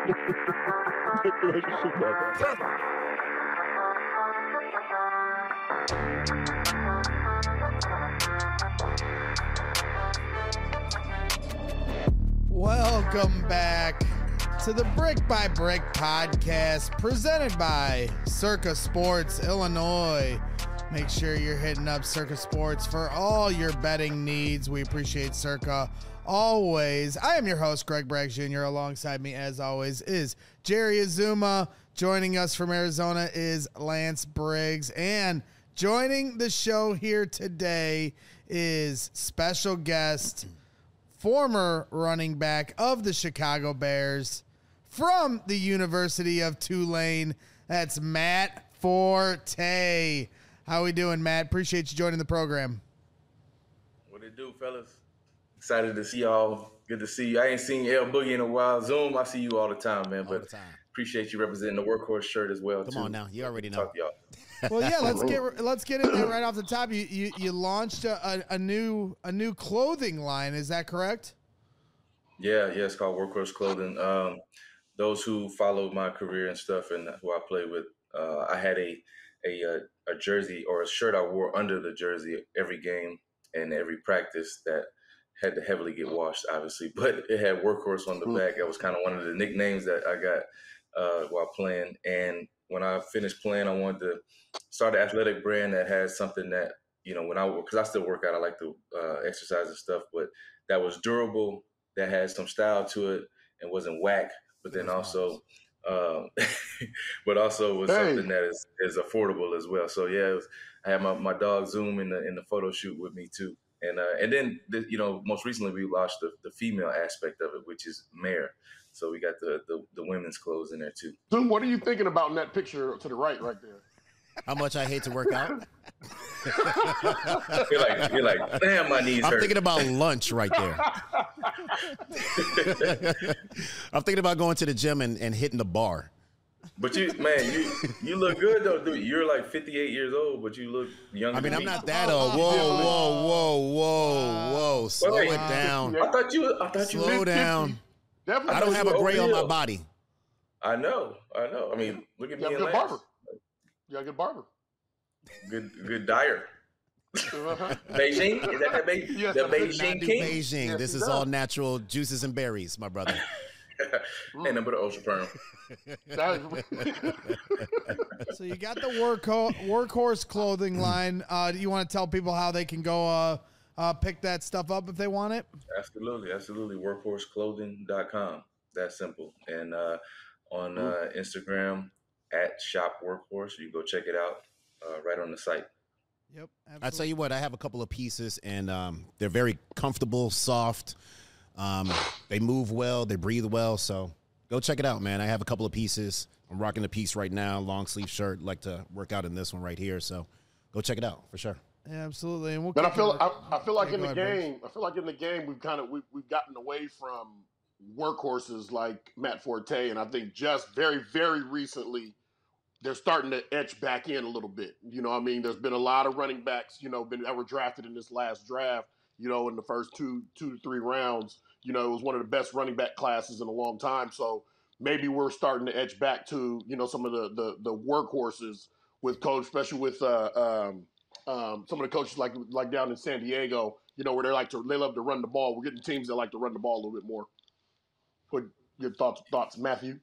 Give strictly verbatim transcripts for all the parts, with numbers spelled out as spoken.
Welcome back to the Brick by Brick podcast presented by Circa Sports Illinois. Make sure you're hitting up Circa Sports for all your betting needs. We appreciate Circa always. I am your host, Greg Bragg Junior Alongside me, as always, is Jerry Azuma. Joining us from Arizona is Lance Briggs. And joining the show here today is special guest, former running back of the Chicago Bears from the University of Tulane. That's Matt Forte. How we doing, Matt? Appreciate you joining the program. What it do, fellas? Excited to see y'all. Good to see you. I ain't seen L Boogie in a while. Zoom, I see you all the time, man. All but the time. Appreciate you representing the Workhorse shirt as well. Come too. on now, you already know. Talk to y'all. Well, yeah, let's get let's get in there right off the top. You you, you launched a, a, a new a new clothing line. Is that correct? Yeah, yeah. It's called Workhorse Clothing. Um, those who followed my career and stuff, and who I played with, uh, I had a a a jersey or a shirt I wore under the jersey every game and every practice that had to heavily get washed, obviously. But it had Workhorse on the back. That was kind of one of the nicknames that I got uh, while playing. And when I finished playing, I wanted to start an athletic brand that had something that, you know, when I, because I still work out, I like to uh, exercise and stuff, but that was durable, that had some style to it and wasn't whack, but then also, um, but also was hey. something that is, is affordable as well. So yeah, it was, I had my, my dog Zoom in the in the photo shoot with me too. And uh, and then, the, you know, most recently we launched the, the female aspect of it, which is Mare. So we got the, the, the women's clothes in there too. Zoom, what are you thinking about in that picture to the right, right there? How much I hate to work out. You're like, you're like, damn, my knees I'm hurt. thinking about lunch right there. I'm thinking about going to the gym and, and hitting the bar. But you, man, you you look good though, dude. You're like fifty-eight years old, but you look younger. I mean, than I'm me. not that old. Whoa, whoa, whoa, whoa, whoa. Slow Wait, it down. I thought you. I thought you. Slow were down. Definitely. I don't have a gray on my Overhill. body. I know. I know. I mean, look at You me have a and good Lance. barber. You got a good barber. Good, good dyer. Uh-huh. Beijing? Is that that Be- Yes, the I'm good. Beijing Not do King? Beijing. Yes, This he is does. all natural juices and berries, my brother. Ain't nothing but an ultra perm. So you got the work workhorse clothing line. Uh, do you want to tell people how they can go uh, uh, pick that stuff up if they want it? Absolutely, absolutely. workhorse clothing dot com. That's simple. And uh, on uh, Instagram at Shop Workhorse, you can go check it out uh, right on the site. Yep. I tell you what, I have a couple of pieces, and um, they're very comfortable, soft. Um, they move well, they breathe well. So go check it out, man. I have a couple of pieces. I'm rocking the piece right now, long sleeve shirt. Like to work out in this one right here. So go check it out for sure. Yeah, absolutely. And we'll But I kick feel it- I, I feel like Yeah, in go the ahead, Briggs. game, I feel like in the game we've kind of we've, we've gotten away from workhorses like Matt Forte, and I think just very very recently they're starting to etch back in a little bit. You know, what I mean, there's been a lot of running backs, you know, been that were drafted in this last draft. You know, in the first two two to three rounds, you know, it was one of the best running back classes in a long time. So maybe we're starting to etch back to, you know, some of the the, the workhorses with coach, especially with uh, um, um, some of the coaches like like down in San Diego, you know, where they like to they love to run the ball. We're getting teams that like to run the ball a little bit more. What your thoughts thoughts, Matthew?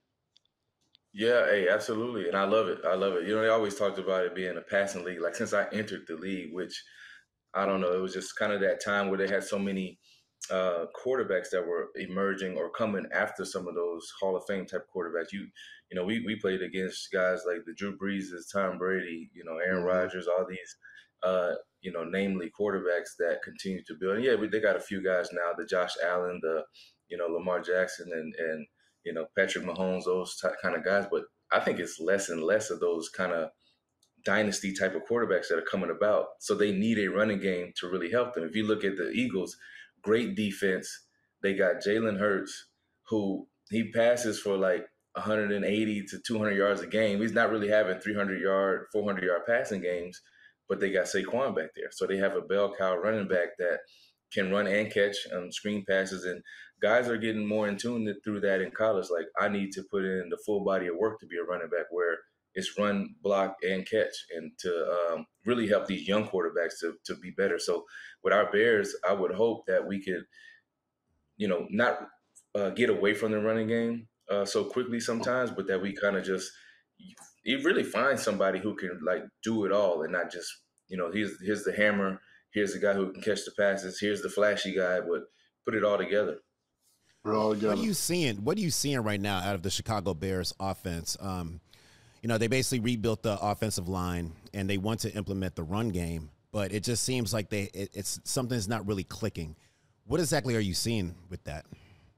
Yeah, hey, absolutely. And I love it. I love it. You know, they always talked about it being a passing league. Like since I entered the league, which I don't know, it was just kind of that time where they had so many uh, quarterbacks that were emerging or coming after some of those Hall of Fame type quarterbacks. You, you know, we, we played against guys like the Drew Breeses, Tom Brady, you know, Aaron Rodgers, all these, uh, you know, namely quarterbacks that continue to build. And yeah, we, they got a few guys now, the Josh Allen, the, you know, Lamar Jackson and, and you know, Patrick Mahomes, those t- kind of guys. But I think it's less and less of those kind of dynasty type of quarterbacks that are coming about. So they need a running game to really help them. If you look at the Eagles, great defense. They got Jalen Hurts, who he passes for like one eighty to two hundred yards a game. He's not really having three hundred yard, four hundred yard passing games, but they got Saquon back there. So they have a bell cow running back that can run and catch um, screen passes. And guys are getting more in tune through that in college. Like, I need to put in the full body of work to be a running back, where it's run, block, and catch, and to um, really help these young quarterbacks to to be better. So with our Bears, I would hope that we could, you know, not uh, get away from the running game uh, so quickly sometimes, but that we kind of just you really find somebody who can like do it all and not just, you know, here's here's the hammer, here's the guy who can catch the passes, here's the flashy guy, but put it all together. All What together. are you seeing? What are you seeing right now out of the Chicago Bears offense? Um, you know, they basically rebuilt the offensive line and they want to implement the run game, but it just seems like they it, it's something's not really clicking. What exactly are you seeing with that?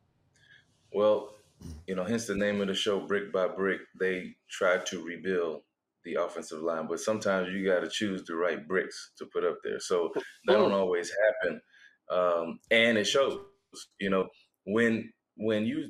Well, you know, hence the name of the show, Brick by Brick. They tried to rebuild the offensive line, but sometimes you got to choose the right bricks to put up there. So that don't always happen, um, and it shows. You know, when when you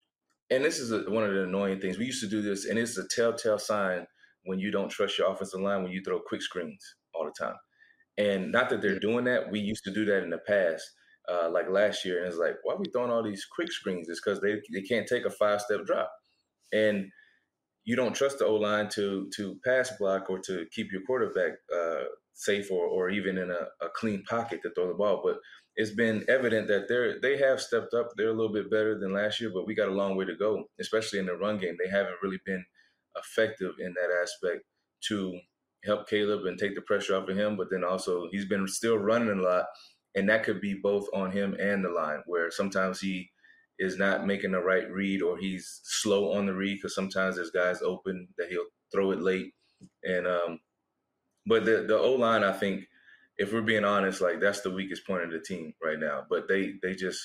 and this is a, one of the annoying things. We used to do this, and it's a telltale sign when you don't trust your offensive line when you throw quick screens all the time. And not that they're doing that. We used to do that in the past, uh, like last year. And it's like, why are we throwing all these quick screens? It's because they, they can't take a five-step drop. And you don't trust the O-line to to pass block or to keep your quarterback uh, safe or, or even in a, a clean pocket to throw the ball. But it's been evident that they're they have stepped up. They're a little bit better than last year, but we got a long way to go, especially in the run game. They haven't really been effective in that aspect to help Caleb and take the pressure off of him. But then also he's been still running a lot, and that could be both on him and the line, where sometimes he is not making the right read or he's slow on the read because sometimes there's guys open that he'll throw it late. And um, but the the O-line, I think, if we're being honest, like that's the weakest point of the team right now. But they they just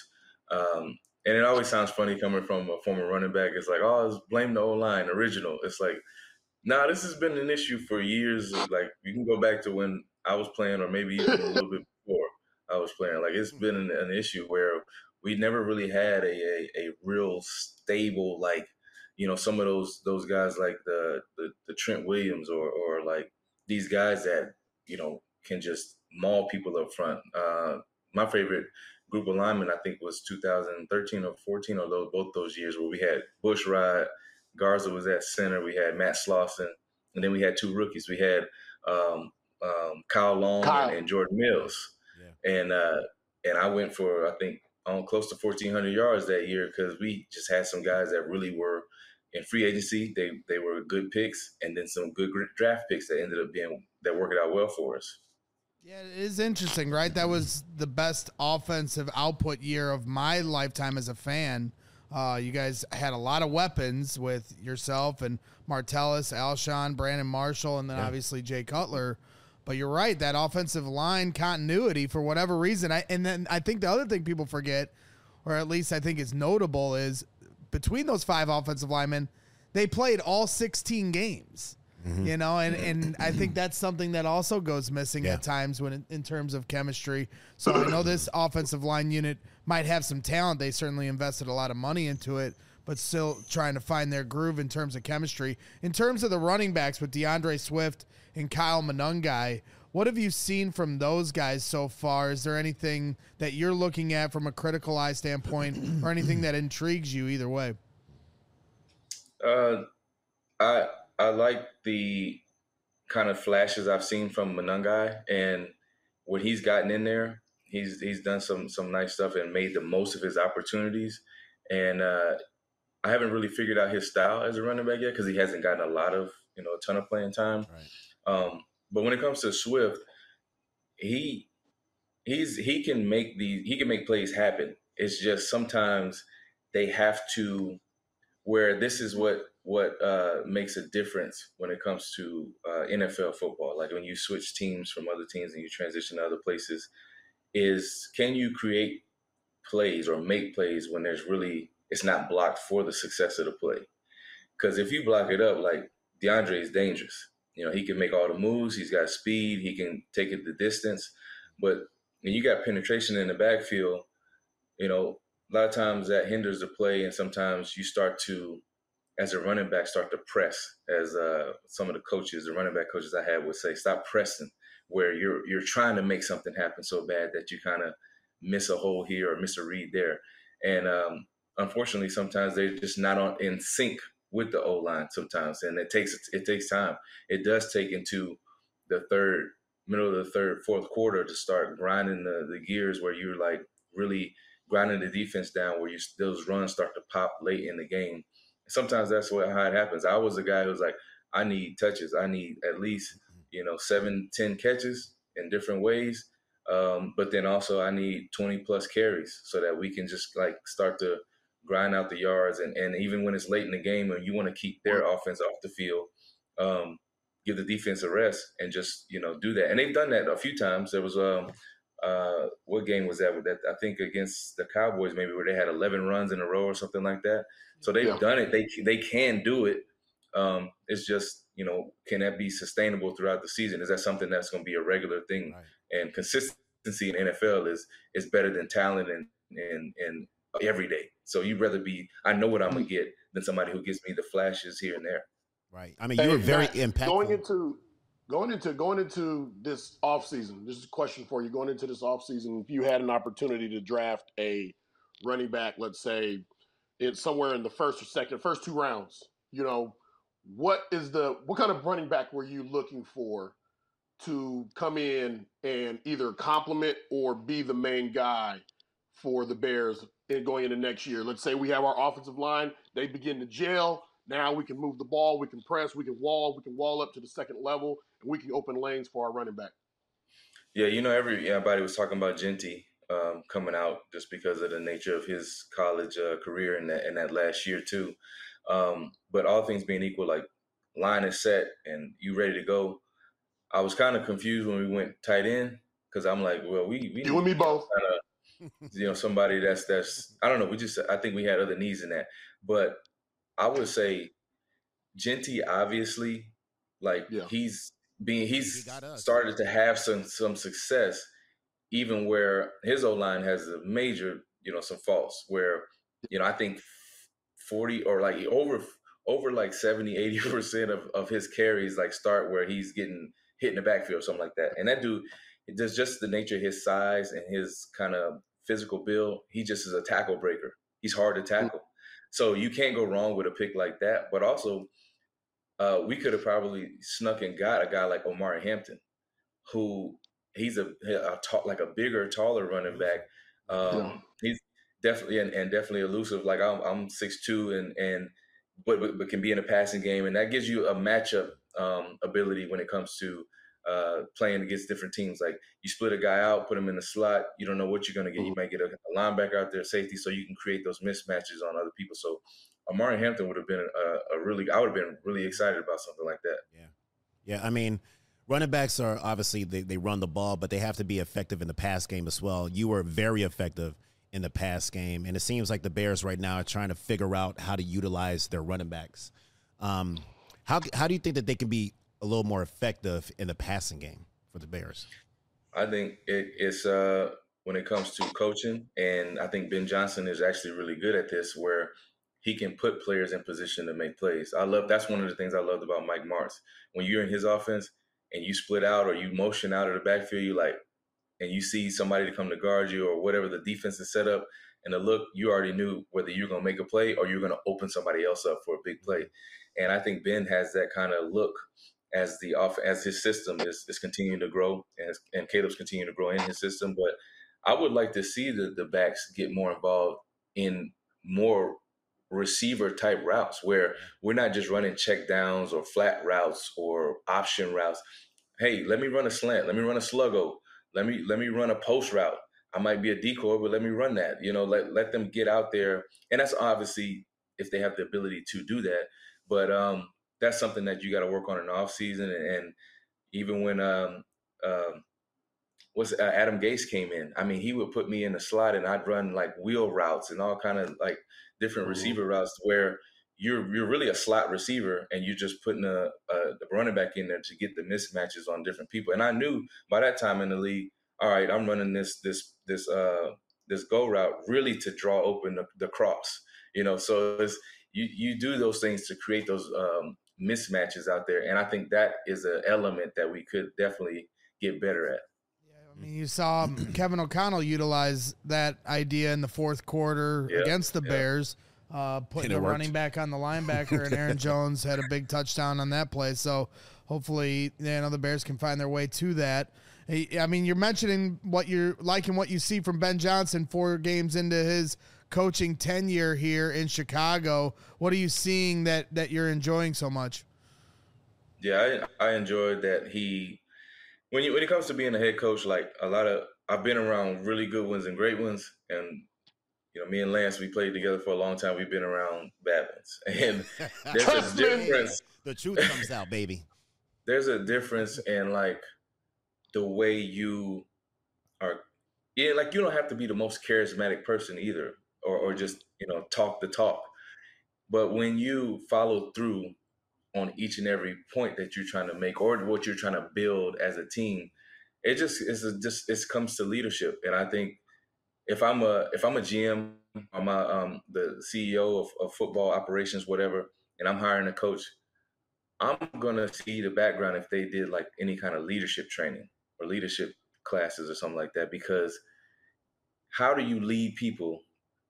um, and it always sounds funny coming from a former running back. It's like, oh, it's blame the O-line, original. It's like, nah, this has been an issue for years. Like you can go back to when I was playing, or maybe even a little bit before I was playing. Like it's been an, an issue where we never really had a, a a real stable, like, you know, some of those those guys like the the, the Trent Williams or or like these guys that, you know, can just maul people up front. Uh, my favorite group of linemen, I think, was two thousand thirteen or fourteen, or those, both those years where we had Bushrod, Garza was at center, we had Matt Slauson, and then we had two rookies. We had um, um, Kyle Long Kyle. And, and Jordan Mills. Yeah. And uh, and I went for, I think, um, close to fourteen hundred yards that year because we just had some guys that really were in free agency. They they were good picks, and then some good draft picks that ended up being that worked out well for us. Yeah, it is interesting, right? That was the best offensive output year of my lifetime as a fan. Uh, you guys had a lot of weapons with yourself and Martellus, Alshon, Brandon Marshall, and then yeah. obviously Jay Cutler. But you're right, that offensive line continuity, for whatever reason. I, and then I think the other thing people forget, or at least I think is notable, is between those five offensive linemen, they played all sixteen games. Mm-hmm. You know, and, and I think that's something that also goes missing yeah. at times when in terms of chemistry. So I know this offensive line unit might have some talent. They certainly invested a lot of money into it, but still trying to find their groove in terms of chemistry. In terms of the running backs with DeAndre Swift and Kyle Monangai, what have you seen from those guys so far? Is there anything that you're looking at from a critical eye standpoint or anything that intrigues you either way? Uh, I I like the kind of flashes I've seen from Monangai, and when he's gotten in there, he's he's done some some nice stuff and made the most of his opportunities. And uh, I haven't really figured out his style as a running back yet because he hasn't gotten a lot of, you know, a ton of playing time. Right. Um, but when it comes to Swift, he he's he can make the he can make plays happen. It's just sometimes they have to where this is what what uh, makes a difference when it comes to uh, N F L football. Like when you switch teams from other teams and you transition to other places, is can you create plays or make plays when there's really it's not blocked for the success of the play? Because if you block it up, like DeAndre is dangerous. You know, he can make all the moves. He's got speed. He can take it the distance. But when you got penetration in the backfield, you know, a lot of times that hinders the play, and sometimes you start to, as a running back, start to press. As uh, some of the coaches, the running back coaches I had would say, stop pressing, where you're you're trying to make something happen so bad that you kind of miss a hole here or miss a read there. And um, unfortunately, sometimes they're just not on in sync with the O line sometimes, and it takes it takes time. It does take into the third, middle of the third, fourth quarter to start grinding the, the gears where you're like really grinding the defense down, where you those runs start to pop late in the game. Sometimes that's what how it happens. I was a guy who was like, I need touches. I need at least you know seven, ten catches in different ways. Um, but then also I need twenty plus carries so that we can just like start to grind out the yards. And, and even when it's late in the game and you want to keep their offense off the field, um, give the defense a rest and just, you know, do that. And they've done that a few times. There was, um, uh, what game was that? That I think against the Cowboys, maybe where they had eleven runs in a row or something like that. So they've yeah. done it. They, they can do it. Um, it's just, you know, can that be sustainable throughout the season? Is that something that's going to be a regular thing? Right. And consistency in the N F L is is better than talent and and and every day. So you'd rather be, I know what I'm gonna get than somebody who gives me the flashes here and there. Right. I mean, you were very Matt, impactful. Going into going into going into this offseason, this is a question for you. Going into this offseason, if you had an opportunity to draft a running back, let's say it's somewhere in the first or second, first two rounds, you know, what is the what kind of running back were you looking for to come in and either complement or be the main guy for the Bears in going into next year? Let's say we have our offensive line, they begin to gel. Now we can move the ball, we can press, we can wall, we can wall up to the second level, and we can open lanes for our running back. Yeah, you know, every everybody was talking about Jeanty um, coming out just because of the nature of his college uh, career in that in that last year too. Um, but all things being equal, like line is set and you ready to go. I was kind of confused when we went tight end because I'm like, well, we we you and me both. Kinda, you know, somebody that's that's I don't know. We just I think we had other needs in that, but I would say Jeanty obviously, like yeah. he's being he's he started to have some some success, even where his O line has a major you know some faults where you know I think forty or like over over like seventy, eighty percent of of his carries like start where he's getting hit in the backfield or something like that. And that dude, just just the nature of his size and his kind of physical build, he just is a tackle breaker. He's hard to tackle. So you can't go wrong with a pick like that. But also, uh, we could have probably snuck and got a guy like Omari Hampton, who he's a, a ta- like a bigger, taller running back. Um, yeah. He's definitely and, and definitely elusive. Like I'm, I'm six two and and but, but but can be in a passing game, and that gives you a matchup um, ability when it comes to uh, playing against different teams. Like you split a guy out, put him in the slot. You don't know what you're going to get. You might get a, a linebacker out there, safety, so you can create those mismatches on other people. So Omari Hampton would have been a, a really, I would have been really excited about something like that. Yeah, yeah. I mean, running backs are obviously they, they run the ball, but they have to be effective in the pass game as well. You were very effective in the pass game, and it seems like the Bears right now are trying to figure out how to utilize their running backs. Um, how how do you think that they can be a little more effective in the passing game for the Bears? I think it, it's uh, when it comes to coaching, and I think Ben Johnson is actually really good at this, where he can put players in position to make plays. I love that's one of the things I loved about Mike Martz. When you're in his offense and you split out or you motion out of the backfield, you like, and you see somebody to come to guard you or whatever the defense is set up, and the look, you already knew whether you're going to make a play or you're going to open somebody else up for a big play. And I think Ben has that kind of look as the off as his system is, is continuing to grow and, and Caleb's continuing to grow in his system. But I would like to see the, the backs get more involved in more receiver type routes where we're not just running check downs or flat routes or option routes. Hey, let me run a slant. Let me run a sluggo. Let me let me run a post route. I might be a decoy, but let me run that. You know, let let them get out there. And that's obviously if they have the ability to do that. But um, that's something that you got to work on in the offseason. And, and even when um, um, what's uh, Adam Gase came in, I mean, he would put me in the slot and I'd run like wheel routes and all kind of like different mm-hmm. receiver routes where you're you're really a slot receiver and you're just putting a, a the running back in there to get the mismatches on different people. And I knew by that time in the league, all right, I'm running this this this uh this go route really to draw open the, the cross. You know, so it's, you you do those things to create those um, mismatches out there, and I think that is an element that we could definitely get better at. I mean, you saw Kevin O'Connell utilize that idea in the fourth quarter yeah, against the yeah. Bears, uh, putting the worked. running back on the linebacker, and Aaron Jones had a big touchdown on that play. So hopefully, you know, the Bears can find their way to that. I mean, you're mentioning what you're liking, what you see from Ben Johnson four games into his coaching tenure here in Chicago. What are you seeing that, that you're enjoying so much? Yeah, I, I enjoyed that he, when you, when it comes to being a head coach, like a lot of, I've been around really good ones and great ones. And, you know, me and Lance, we played together for a long time. We've been around bad ones. And there's a difference. The truth comes out, baby. There's a difference in like the way you are. Yeah, like you don't have to be the most charismatic person either, or, or just, you know, talk the talk. But when you follow through on each and every point that you're trying to make or what you're trying to build as a team, it just is just it comes to leadership. And I think if I'm a if I'm a G M, I'm a, um, the C E O of, of football operations, whatever, and I'm hiring a coach, I'm gonna see the background if they did like any kind of leadership training or leadership classes or something like that. Because how do you lead people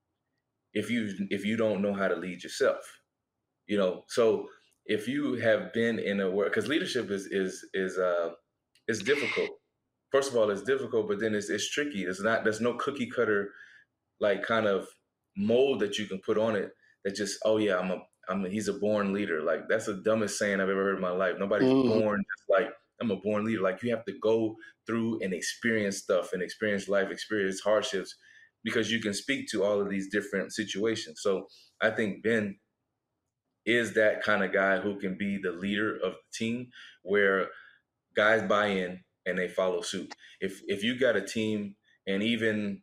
if you if you don't know how to lead yourself? You know, so if you have been in a work, because leadership is is is uh is difficult. First of all, it's difficult, but then it's it's tricky. It's not there's no cookie cutter like kind of mold that you can put on it that just, oh yeah, I'm a I'm a, he's a born leader. Like that's the dumbest saying I've ever heard in my life. Nobody's mm-hmm. born just like I'm a born leader. Like you have to go through and experience stuff and experience life, experience hardships, because you can speak to all of these different situations. So I think Ben is that kind of guy who can be the leader of the team where guys buy in and they follow suit. If if you got a team and even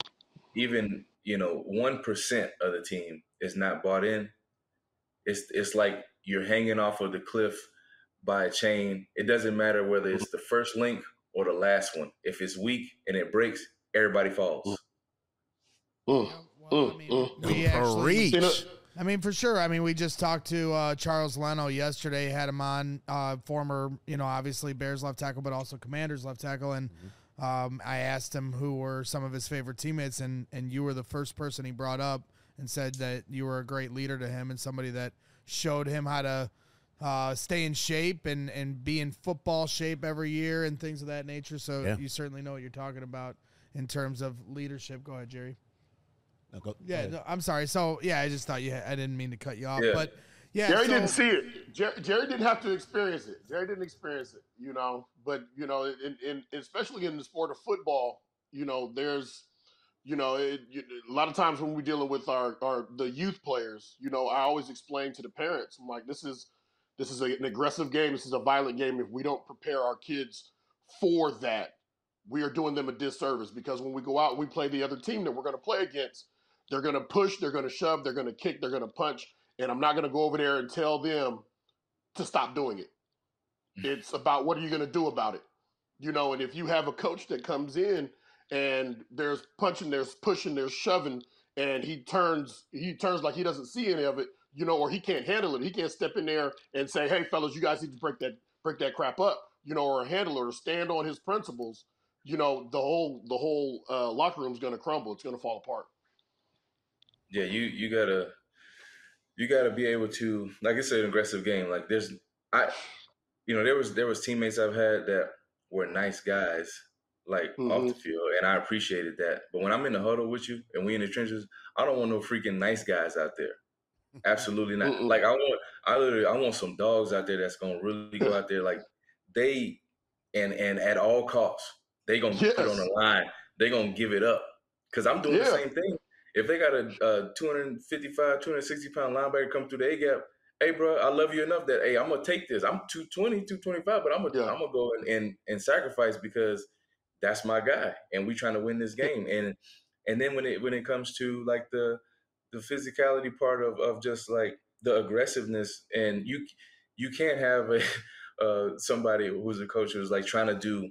even you know one percent of the team is not bought in, it's it's like you're hanging off of the cliff by a chain. It doesn't matter whether it's the first link or the last one. If it's weak and it breaks, everybody falls. Mm. Yeah, well, I mean, mm. we actually, I mean, for sure. I mean, we just talked to uh, Charles Leno yesterday, had him on, uh, former, you know, obviously Bears left tackle, but also Commanders left tackle. And mm-hmm. um, I asked him who were some of his favorite teammates, and, and you were the first person he brought up and said that you were a great leader to him and somebody that showed him how to uh, stay in shape and, and be in football shape every year and things of that nature. So yeah. You certainly know what you're talking about in terms of leadership. Go ahead, Jerry. No, go, yeah, go no, I'm sorry. So, yeah, I just thought you had, I didn't mean to cut you off, yeah. but yeah. Jerry so, didn't see it. Jerry, Jerry didn't have to experience it. Jerry didn't experience it, you know, but, you know, in, in, especially in the sport of football, you know, there's, you know, it, you, a lot of times when we're dealing with our, our, the youth players, you know, I always explain to the parents, I'm like, this is, this is a, an aggressive game. This is a violent game. If we don't prepare our kids for that, we are doing them a disservice, because when we go out, we play the other team that we're going to play against. They're going to push, they're going to shove, they're going to kick, they're going to punch, and I'm not going to go over there and tell them to stop doing it. It's about what are you going to do about it? You know, and if you have a coach that comes in and there's punching, there's pushing, there's shoving, and he turns he turns like he doesn't see any of it, you know, or he can't handle it. He can't step in there and say, hey, fellas, you guys need to break that break that crap up, you know, or handle it or stand on his principles. You know, the whole the whole uh, locker room's going to crumble. It's going to fall apart. Yeah, you you gotta you gotta be able to, like I said, an aggressive game. Like there's I you know, there was there was teammates I've had that were nice guys, like mm-hmm. off the field, and I appreciated that. But when I'm in the huddle with you and we in the trenches, I don't want no freaking nice guys out there. Absolutely not. Mm-mm. Like I want I literally I want some dogs out there that's gonna really go out there like they and and at all costs, they gonna yes. put on the line, they gonna give it up. Cause I'm doing yeah. the same thing. If they got a, a two fifty-five, two sixty pound linebacker come through the A-gap, hey, bro, I love you enough that, hey, I'm going to take this. I'm two twenty, two twenty-five, but I'm going yeah. to go and, and and sacrifice because that's my guy, and we trying to win this game. And and then when it when it comes to, like, the the physicality part of, of just, like, the aggressiveness, and you you can't have a uh, somebody who's a coach who's, like, trying to do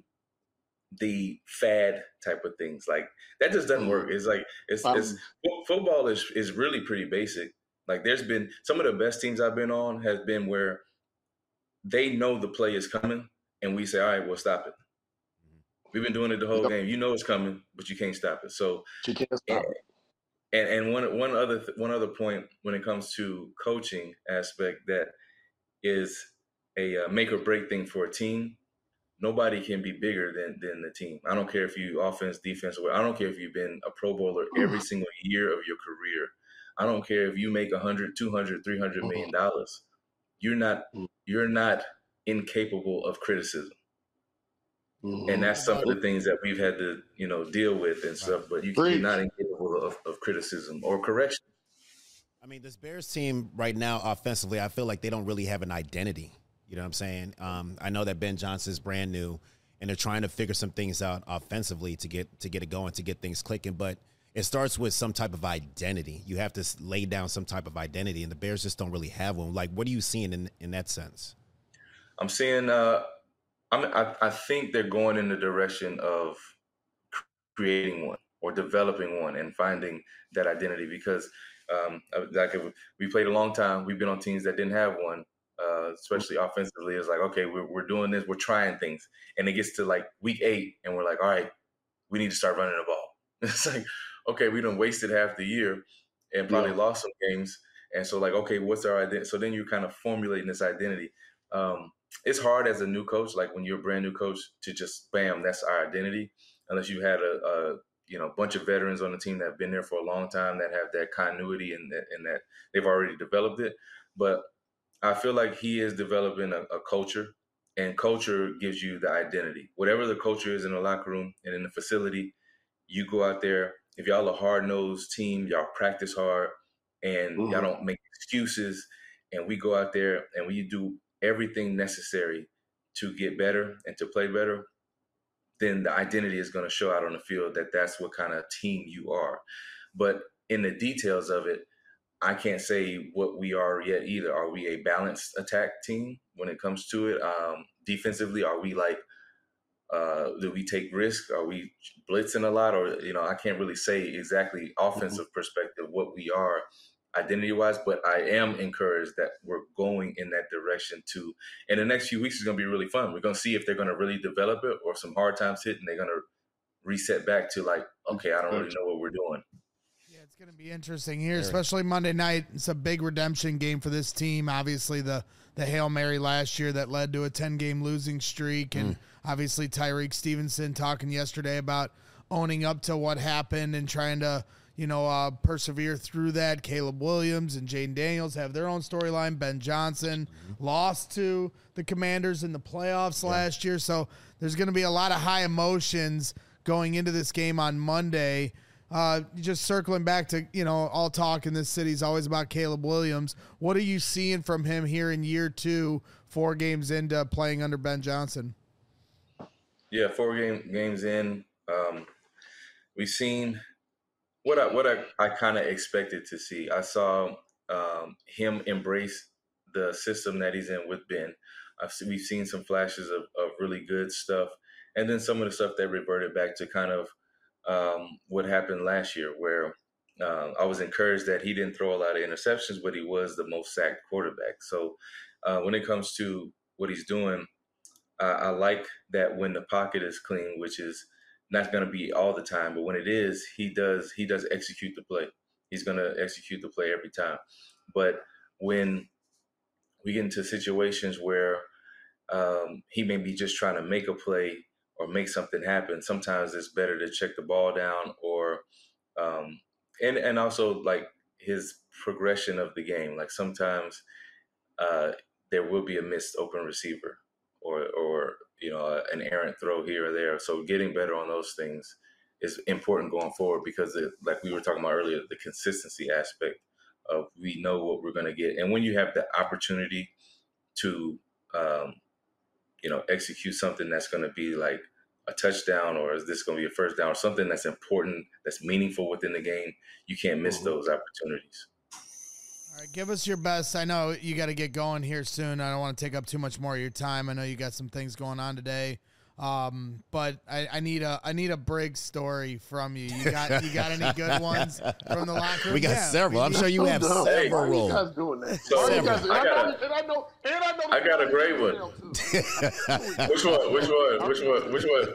the fad type of things. Like that just doesn't work. It's like it's, um, it's football is is really pretty basic. Like there's been some of the best teams I've been on has been where they know the play is coming and we say, all right, we'll stop it. We've been doing it the whole yep. game. You know it's coming, but you can't stop it. So you can't stop and, it. And and one one other th- one other point when it comes to coaching aspect that is a uh, make or break thing for a team. Nobody can be bigger than than the team. I don't care if you offense, defense, or I don't care if you've been a Pro Bowler every single year of your career. I don't care if you make one hundred, two hundred, three hundred million dollars. You're not you're not incapable of criticism. Mm-hmm. And that's some of the things that we've had to, you know, deal with and stuff, but you, you're not incapable of, of criticism or correction. I mean, this Bears team right now, offensively, I feel like they don't really have an identity. You know what I'm saying? Um, I know that Ben Johnson's brand new, and they're trying to figure some things out offensively to get to get it going, to get things clicking. But it starts with some type of identity. You have to lay down some type of identity, and the Bears just don't really have one. Like, what are you seeing in in that sense? I'm seeing. Uh, I mean, I, I think they're going in the direction of creating one or developing one and finding that identity because, um, like, we played a long time. We've been on teams that didn't have one. Uh, especially offensively, it's like, okay, we're we're doing this, we're trying things, and it gets to like week eight, and we're like, all right, we need to start running the ball. It's like, okay, we done wasted half the year and probably yeah. lost some games, and so like, okay, what's our identity? So then you're kind of formulating this identity. Um, it's hard as a new coach, like when you're a brand new coach, to just bam, that's our identity, unless you had a, a you know bunch of veterans on the team that have been there for a long time that have that continuity and that, and that they've already developed it, but I feel like he is developing a, a culture, and culture gives you the identity. Whatever the culture is in the locker room and in the facility, you go out there. If y'all a hard-nosed team, y'all practice hard, and mm-hmm. y'all don't make excuses, and we go out there and we do everything necessary to get better and to play better, then the identity is going to show out on the field that that's what kind of team you are. But in the details of it, I can't say what we are yet either. Are we a balanced attack team when it comes to it? Um, defensively, are we like, uh, do we take risk? Are we blitzing a lot? Or, you know, I can't really say exactly offensive mm-hmm. perspective what we are identity-wise, but I am encouraged that we're going in that direction too. And the next few weeks is going to be really fun. We're going to see if they're going to really develop it or some hard times hit and they're going to reset back to like, okay, I don't really know what we're doing. It's going to be interesting here, especially Monday night. It's a big redemption game for this team. Obviously, the the Hail Mary last year that led to a ten-game losing streak, and mm. obviously Tyreek Stevenson talking yesterday about owning up to what happened and trying to, you know, uh, persevere through that. Caleb Williams and Jaden Daniels have their own storyline. Ben Johnson mm-hmm. lost to the Commanders in the playoffs yeah. last year, so there's going to be a lot of high emotions going into this game on Monday. Uh, just circling back to, you know, all talk in this city is always about Caleb Williams. What are you seeing from him here in year two, four games into playing under Ben Johnson? Yeah, four game, games in. Um, we've seen what I what I, I kind of expected to see. I saw um, him embrace the system that he's in with Ben. I've seen, we've seen some flashes of, of really good stuff, and then some of the stuff that reverted back to kind of Um, what happened last year, where uh, I was encouraged that he didn't throw a lot of interceptions, but he was the most sacked quarterback. So uh, when it comes to what he's doing, uh, I like that when the pocket is clean, which is not going to be all the time, but when it is, he does he does execute the play. He's going to execute the play every time. But when we get into situations where um, he may be just trying to make a play or make something happen, sometimes it's better to check the ball down or um, and and also like his progression of the game. Like sometimes uh, there will be a missed open receiver or or you know an errant throw here or there. So getting better on those things is important going forward because it, like we were talking about earlier, the consistency aspect of we know what we're going to get. And when you have the opportunity to um, you know, execute something that's going to be like a touchdown, or is this going to be a first down, or something that's important, that's meaningful within the game, you can't miss mm-hmm. those opportunities. All right, give us your best. I know you got to get going here soon. I don't want to take up too much more of your time. I know you got some things going on today. Um, but I, I need a I need a Briggs story from you. You got you got any good ones from the locker room? We got yeah, several. We I'm sure you have no, several. Hey, you guys doing that? So, several. Guys, I, got, and I know, and I know. I got a great one. Which one? Which one? Which one? Which one?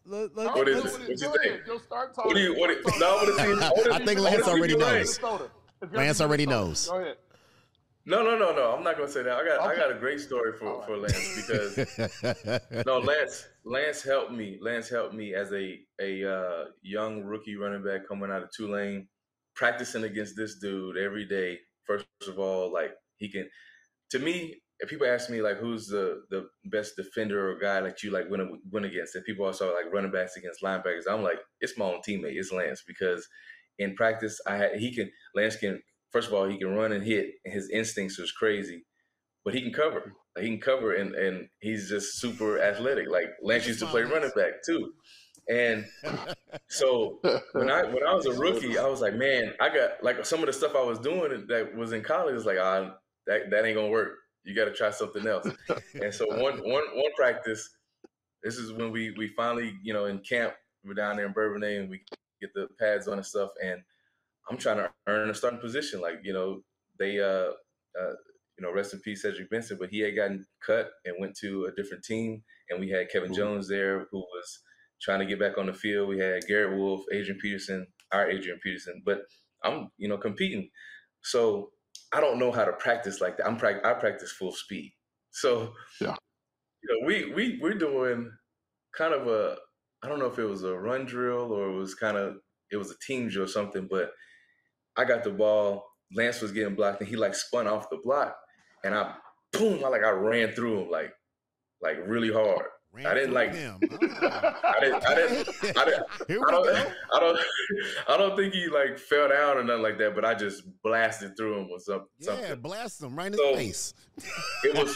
let, let, What is let's, it? What you Go think? ahead. Go start talking. What do you? What? Do you, no, I want to see. I, wanna I see- think I Lance wanna see already you knows. Lance. Minnesota. It's Lance gotta be already Minnesota. knows. Go ahead. No, no, no, no. I'm not gonna say that. I got, I Okay. got a great story for, All right. for Lance because no, Lance, Lance helped me. Lance helped me as a a uh, young rookie running back coming out of Tulane, practicing against this dude every day. First of all, like he can. To me, if people ask me like who's the, the best defender or guy that you like win win against, and people also like running backs against linebackers, I'm like it's my own teammate, it's Lance, because in practice I had he can Lance can first of all he can run and hit, and his instincts is crazy, but he can cover. Like, he can cover and and he's just super athletic. Like Lance used to play running back too, and so when I when I was a rookie, I was like, man, I got like some of the stuff I was doing that was in college is like ah. That, that ain't gonna work. You got to try something else. And so one one one practice, this is when we we finally, you know, in camp, we're down there in Bourbonnais and we get the pads on and stuff. And I'm trying to earn a starting position. Like, you know, they, uh, uh, you know, rest in peace, Cedric Benson, but he had gotten cut and went to a different team. And we had Kevin Jones there who was trying to get back on the field. We had Garrett Wolf, Adrian Peterson, our Adrian Peterson. But I'm, you know, competing. So I don't know how to practice like that. I'm pra- I practice full speed. So, yeah, you know, we we we're doing kind of a I don't know if it was a run drill or it was kind of it was a team drill or something. But I got the ball. Lance was getting blocked, and he like spun off the block, and I boom, I like I ran through him like like really hard. Ran I didn't through like. him. I didn't. I didn't. I didn't. Here we I don't. go. I don't. I don't think he like fell down or nothing like that. But I just blasted through him or something. Yeah, something. blast him right in So, his face. It was.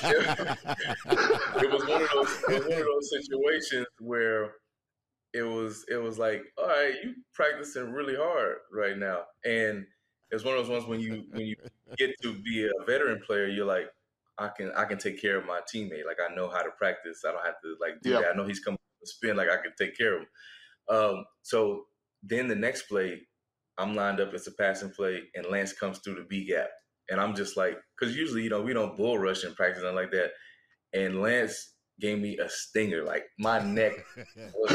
It, it was one of those. It was one of those situations where it was. It was like, all right, you practicing really hard right now, and it's one of those ones when you when you get to be a veteran player, you're like, I can I can take care of my teammate. Like I know how to practice. I don't have to like do Yep. that. I know he's coming to spin. Like I can take care of him. Um, so then the next play, I'm lined up. It's a passing play, and Lance comes through the B gap, and I'm just like, because usually you know we don't bull rush in practice and like that. And Lance gave me a stinger. Like my neck was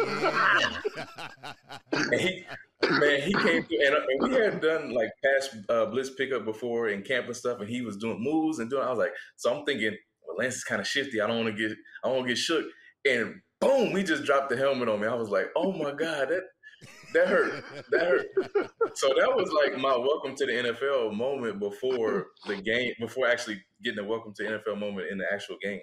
like, and he man, he came through, and, and we had done like past uh, blitz pickup before in camp and stuff, and he was doing moves and doing. I was like, so I'm thinking, well, Lance is kind of shifty. I don't want to get, I don't want to get shook. And boom, he just dropped the helmet on me. I was like, oh my god, that that hurt, that hurt. So that was like my welcome to the N F L moment before the game, before actually getting a welcome to the N F L moment in the actual game.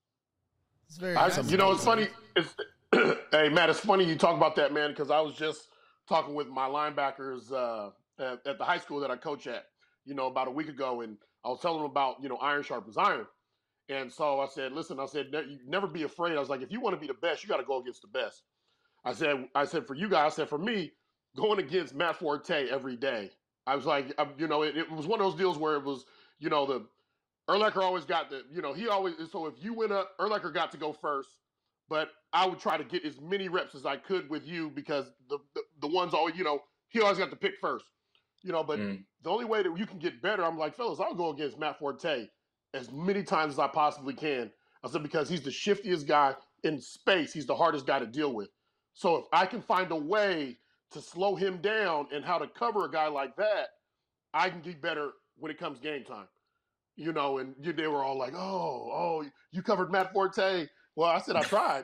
it's very I, nice. you know, it's funny. It's hey Matt, it's funny you talk about that, man, because I was just talking with my linebackers uh, at, at the high school that I coach at, you know, about a week ago, and I was telling them about, you know, iron sharpens iron. And so I said, listen, I said, ne- you never be afraid. I was like, if you want to be the best, you got to go against the best. I said, I said, for you guys, I said, for me, going against Matt Forte every day, I was like, I, you know, it, it was one of those deals where it was, you know, the Urlacher always got the, you know, he always, so if you went up, Urlacher got to go first, but I would try to get as many reps as I could with you because the the, the ones always, you know, he always got to pick first, you know, but Mm. the only way that you can get better, I'm like, fellas, I'll go against Matt Forte as many times as I possibly can. I said, because he's the shiftiest guy in space. He's the hardest guy to deal with. So if I can find a way to slow him down and how to cover a guy like that, I can get better when it comes game time. You know, and you, they were all like, oh, oh, you covered Matt Forte. Well, I said, I tried.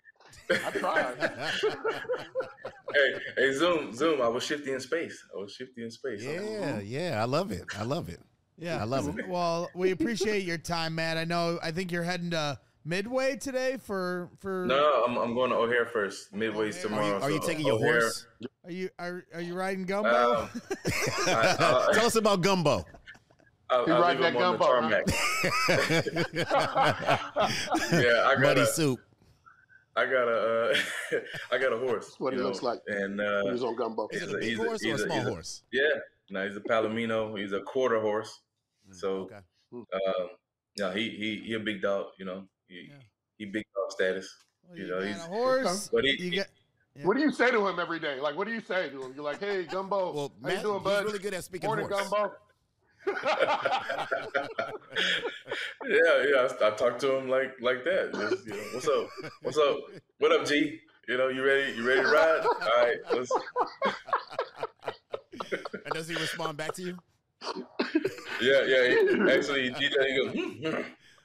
I tried. Hey, hey, Zoom, Zoom. I was shifty in space. I was shifty in space. Yeah, yeah, I love it. I love it. Yeah, I love it. Well, we appreciate your time, Matt. I know. I think you're heading to Midway today for for. No, I'm I'm going to O'Hare first. Midway's O'Hare. Are you, tomorrow. are you so taking your O'Hare- horse? Are you are are you riding gumbo? Um, I, uh, Tell us about gumbo. I'll, He I'll riding leave him that on the gumbo, tarmac. Yeah, I got Muddy a, soup. I got a, uh, I got a horse. That's what he you know, looks like. And uh, He was on gumbo. Is it he's a a- big he's a- horse or a he's a- small he's a- horse? yeah, no, he's a Palomino. He's a quarter horse. So, Okay. um, yeah, he he he a big dog. You know, he Yeah. he big dog status. Well, you you know, got he's- a horse. But he, You get. Yeah. What do you say to him every day? Like, what do you say to him? You're like, hey, Gumbo, Well, how Matt, you doing, he's bud? really good at speaking Morning, horse. Gumbo. yeah, yeah. I, I talk to him like like that. Just, you know, what's up? What's up? What up, G? You know, you ready? You ready to ride? All right, let's. And does he respond back to you? Yeah, yeah. He, actually, he did that. He goes, hmm.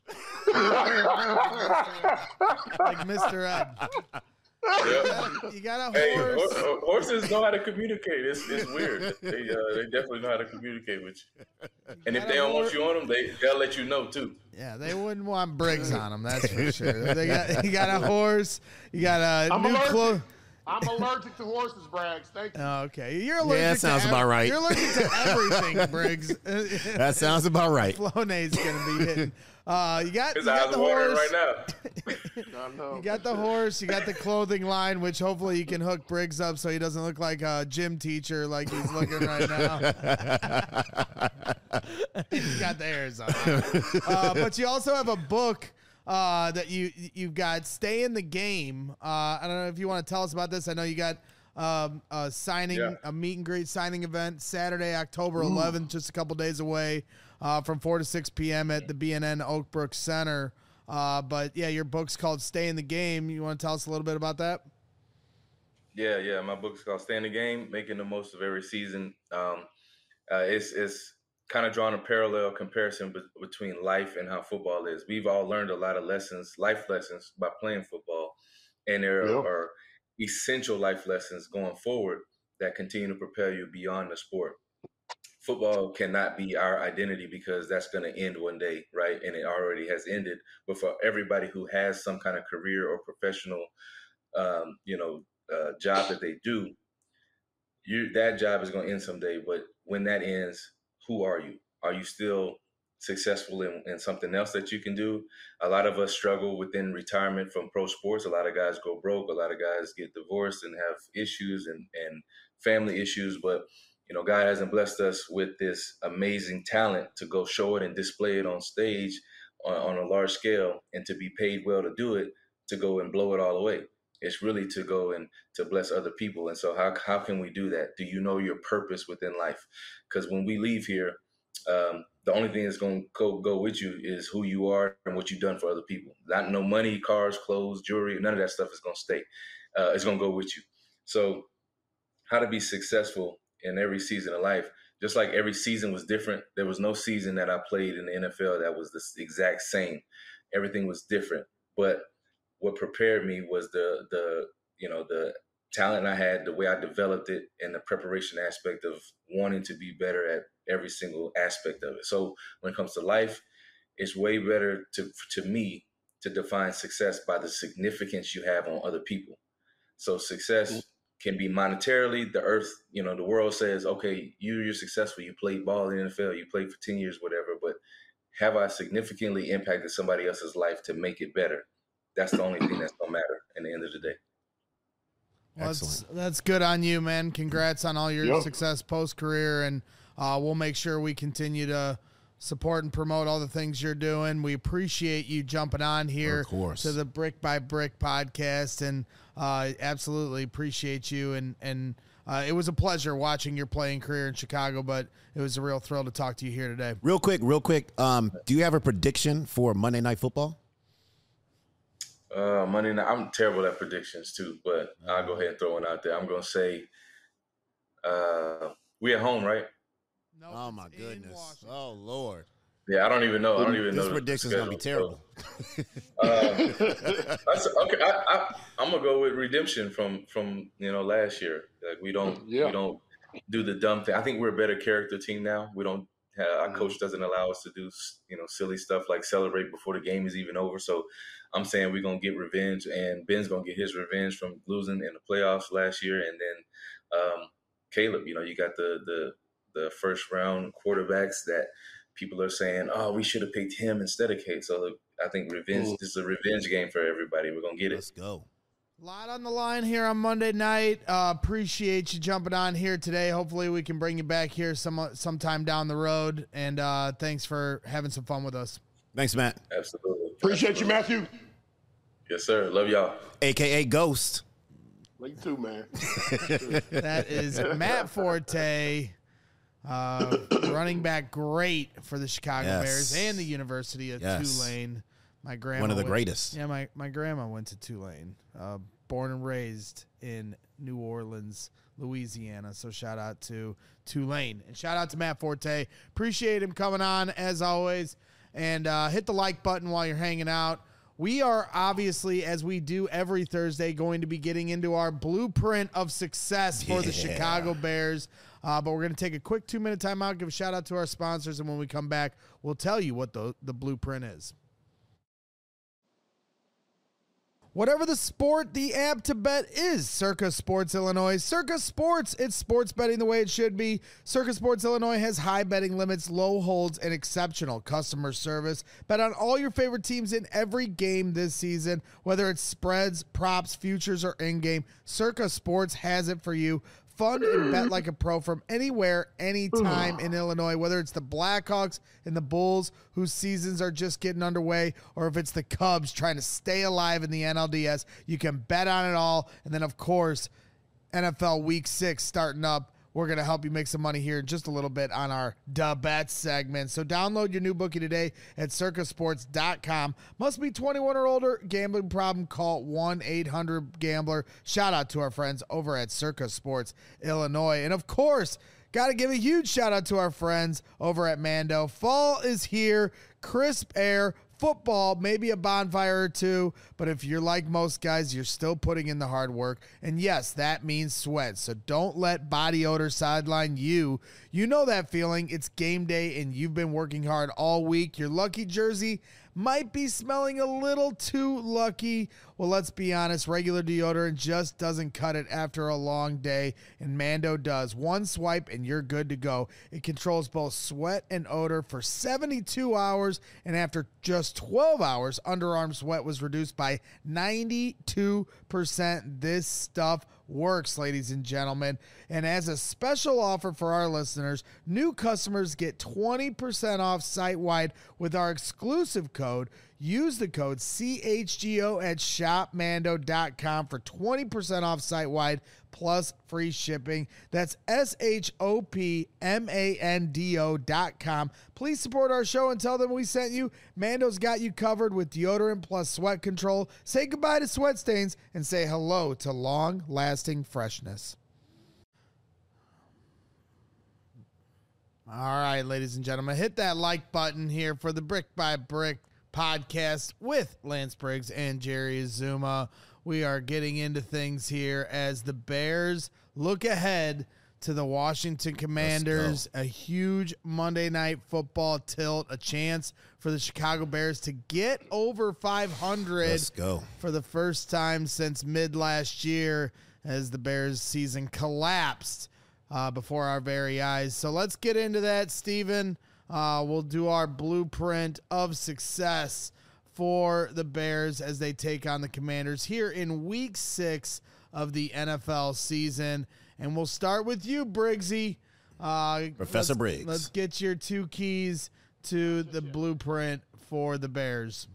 Like Mister Ed. Yeah. You got a Hey, horse. hor- horses know how to communicate. It's it's weird. They uh, they definitely know how to communicate with you. And if got they a don't want hor- you on them, they they'll let you know too. Yeah, they wouldn't want Briggs on them. That's for sure. They got you got a horse. You got a I'm new allergic. clothes. I'm allergic to horses, Braggs. Thank you. Okay, you're allergic. Yeah, that sounds to about ev- right. You're allergic to everything, Briggs. That sounds about right. Flonase gonna be hitting. Uh, you got, His you got eyes the watering horse. right now. I know. You got the horse. You got the clothing line, which hopefully you can hook Briggs up so he doesn't look like a gym teacher like he's looking right now. He's got the hairs on. Uh, but you also have a book uh, that you you've got, Stay in the Game. Uh, I don't know if you want to tell us about this. I know you got um, a signing, Yeah. a meet and greet signing event Saturday, October eleventh, just a couple days away, uh, from four to six p.m. at the B N N Oakbrook Center. Uh, but yeah, your book's called Stay in the Game. You want to tell us a little bit about that? Yeah, yeah. My book's called Stay in the Game, Making the Most of Every Season. Um, uh, it's it's kind of drawn a parallel comparison be- between life and how football is. We've all learned a lot of lessons, life lessons, by playing football, and there Yeah. are essential life lessons going forward that continue to propel you beyond the sport. Football cannot be our identity because that's going to end one day, right? And it already has ended. But for everybody who has some kind of career or professional, um, you know, uh, job that they do, you that job is going to end someday. But when that ends, who are you? Are you still successful in, in something else that you can do? A lot of us struggle within retirement from pro sports. A lot of guys go broke. A lot of guys get divorced and have issues and, and family issues. But you know, God hasn't blessed us with this amazing talent to go show it and display it on stage on, on a large scale, and to be paid well to do it, to go and blow it all away. It's really to go and to bless other people. And so how how can we do that? Do you know your purpose within life? Because when we leave here, um, the only thing that's going to go, go with you is who you are and what you've done for other people. Not no money, cars, clothes, jewelry, none of that stuff is going to stay. Uh, it's going to go with you. So how to be successful in every season of life, just like every season was different. There was no season that I played in the N F L that was the exact same. Everything was different. But what prepared me was the the you know the talent I had, the way I developed it, and the preparation aspect of wanting to be better at every single aspect of it. So when it comes to life, it's way better to to me to define success by the significance you have on other people. So success can be monetarily. The earth, you know, the world says, okay, you, you're successful. You played ball in the N F L. You played for ten years, whatever. But have I significantly impacted somebody else's life to make it better? That's the only thing that's going to matter in the end of the day. Well, that's, that's good on you, man. Congrats on all your Yep. success post-career, and uh, we'll make sure we continue to support and promote all the things you're doing. We appreciate you jumping on here Of course. to the Brick by Brick podcast, and uh, absolutely appreciate you. And, and uh, it was a pleasure watching your playing career in Chicago, but it was a real thrill to talk to you here today. Real quick, real quick. Um, do you have a prediction for Monday Night Football? Uh, Monday night, I'm terrible at predictions too, but I'll go ahead and throw one out there. I'm going to say uh, we at home, right? No, Oh my it's in goodness! Washington. Oh Lord! Yeah, I don't even know. I don't even This know. the prediction's gonna be schedule, terrible. so, uh, that's, okay, I, I, I'm gonna go with redemption from from you know last year. Like we don't Yeah. we don't do the dumb thing. I think we're a better character team now. We don't. Have, our coach doesn't allow us to do you know silly stuff like celebrate before the game is even over. So I'm saying we're gonna get revenge, and Ben's gonna get his revenge from losing in the playoffs last year, and then um, Caleb. You know, you got the the the first round quarterbacks that people are saying, oh, we should have picked him instead of Kate. So I think revenge. Mm. This is a revenge game for everybody. We're gonna get it. Let's go. A lot on the line here on Monday night. Uh, appreciate you jumping on here today. Hopefully we can bring you back here some sometime down the road. And uh, thanks for having some fun with us. Thanks, Matt. Absolutely. Appreciate you, Matthew. Yes, sir. Love y'all. A K A Ghost. Me too, man. That is Matt Forte, uh, running back great for the Chicago Yes. Bears and the University of Yes. Tulane. My grandma One of the went- greatest. Yeah, my, my grandma went to Tulane. Uh, born and raised in New Orleans, Louisiana. So shout out to Tulane. And shout out to Matt Forte. Appreciate him coming on, as always. And uh, hit the like button while you're hanging out. We are obviously, as we do every Thursday, going to be getting into our blueprint of success for yeah. the Chicago Bears. Uh, but we're going to take a quick two-minute timeout, give a shout-out to our sponsors, and when we come back, we'll tell you what the, the blueprint is. Whatever the sport, the app to bet is Circa Sports Illinois. Circa Sports, it's sports betting the way it should be. Circa Sports Illinois has high betting limits, low holds, and exceptional customer service. Bet on all your favorite teams in every game this season, whether it's spreads, props, futures, or in-game. Circa Sports has it for you. Fun and bet like a pro from anywhere, anytime in Illinois, whether it's the Blackhawks and the Bulls, whose seasons are just getting underway, or if it's the Cubs trying to stay alive in the N L D S. You can bet on it all. And then, of course, N F L Week six starting up. We're going to help you make some money here in just a little bit on our Da Bet segment. So download your new bookie today at circa sports dot com. Must be twenty-one or older. Gambling problem, call one eight hundred gambler. Shout out to our friends over at Circa Sports Illinois. And, of course, got to give a huge shout out to our friends over at Mando. Fall is here. Crisp air. Football, maybe a bonfire or two, but if you're like most guys, you're still putting in the hard work. And yes, that means sweat. So don't let body odor sideline you. You know that feeling. It's game day and you've been working hard all week. Your lucky jersey might be smelling a little too lucky. Well, let's be honest, regular deodorant just doesn't cut it after a long day, and Mando does. One swipe and you're good to go. It controls both sweat and odor for seventy-two hours, and after just twelve hours, underarm sweat was reduced by ninety-two percent. This stuff works, ladies and gentlemen. And as a special offer for our listeners, new customers get twenty percent off site-wide with our exclusive code. Use the code C H G O at shop mando dot com for twenty percent off site-wide plus free shipping. That's S H O P M A N D O dot com. Please support our show and tell them we sent you. Mando's got you covered with deodorant plus sweat control. Say goodbye to sweat stains and say hello to long-lasting freshness. All right, ladies and gentlemen, hit that like button here for the Brick by Brick podcast with Lance Briggs and Jerry Azuma. We are getting into things here as the Bears look ahead to the Washington Commanders, a huge Monday Night Football tilt, a chance for the Chicago Bears to get over five hundred. Let's go. For the first time since mid last year as the Bears season collapsed uh, before our very eyes. So let's get into that, Steven. Uh, we'll do our blueprint of success for the Bears as they take on the Commanders here in week six of the N F L season. And we'll start with you, Briggsy. Uh, Professor let's, Briggs. Let's get your two keys to the blueprint for the Bears.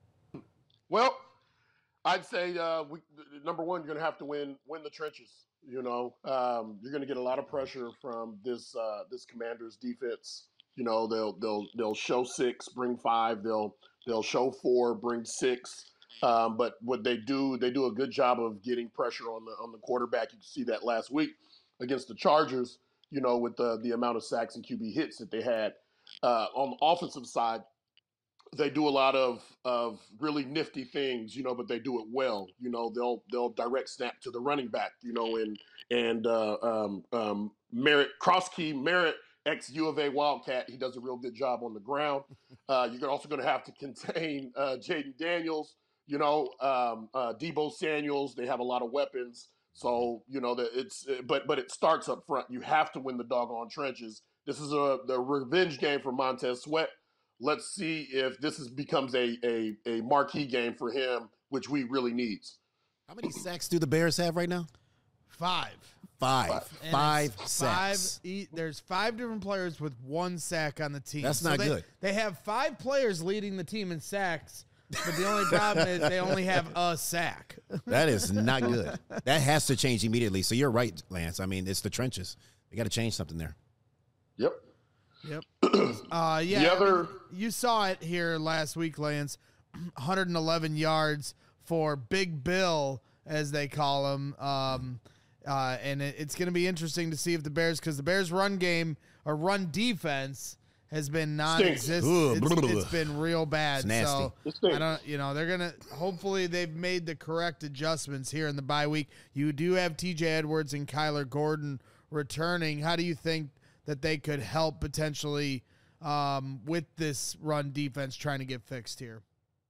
Well, I'd say uh, we, number one, you're going to have to win win the trenches. You know, um, you're going to get a lot of pressure from this uh, this Commanders defense. You know, they'll they'll they'll show six, bring five. They'll they'll show four, bring six. Um, but what they do, they do a good job of getting pressure on the on the quarterback. You can see that last week against the Chargers. You know, with the the amount of sacks and Q B hits that they had uh, on the offensive side. They do a lot of of really nifty things, you know, but they do it well. You know, they'll they'll direct snap to the running back, you know, and and uh, um, um, Merritt Krosky Merritt. Ex U of A Wildcat, he does a real good job on the ground. Uh, you're also going to have to contain uh, Jaden Daniels, you know, um, uh, Deebo Samuels. They have a lot of weapons, so you know that it's. But but it starts up front. You have to win the doggone trenches. This is a the revenge game for Montez Sweat. Let's see if this is, becomes a, a a marquee game for him, which we really needs. How many sacks do the Bears have right now? Five. Five. Five, five sacks. Five, there's five different players with one sack on the team. That's so not they, good. They have five players leading the team in sacks, but the only problem is they only have a sack. That is not good. That has to change immediately. So you're right, Lance. I mean, it's the trenches. They got to change something there. Yep. Yep. Uh, yeah. The other, I mean, you saw it here last week, Lance. one hundred eleven yards for Big Bill as they call him. Um, uh, and it, it's going to be interesting to see if the Bears, because the Bears' run game or run defense has been non-existent. It's, it's been real bad. So I don't, you know, they're gonna. Hopefully, they've made the correct adjustments here in the bye week. You do have T J Edwards and Kyler Gordon returning. How do you think that they could help potentially um, with this run defense trying to get fixed here?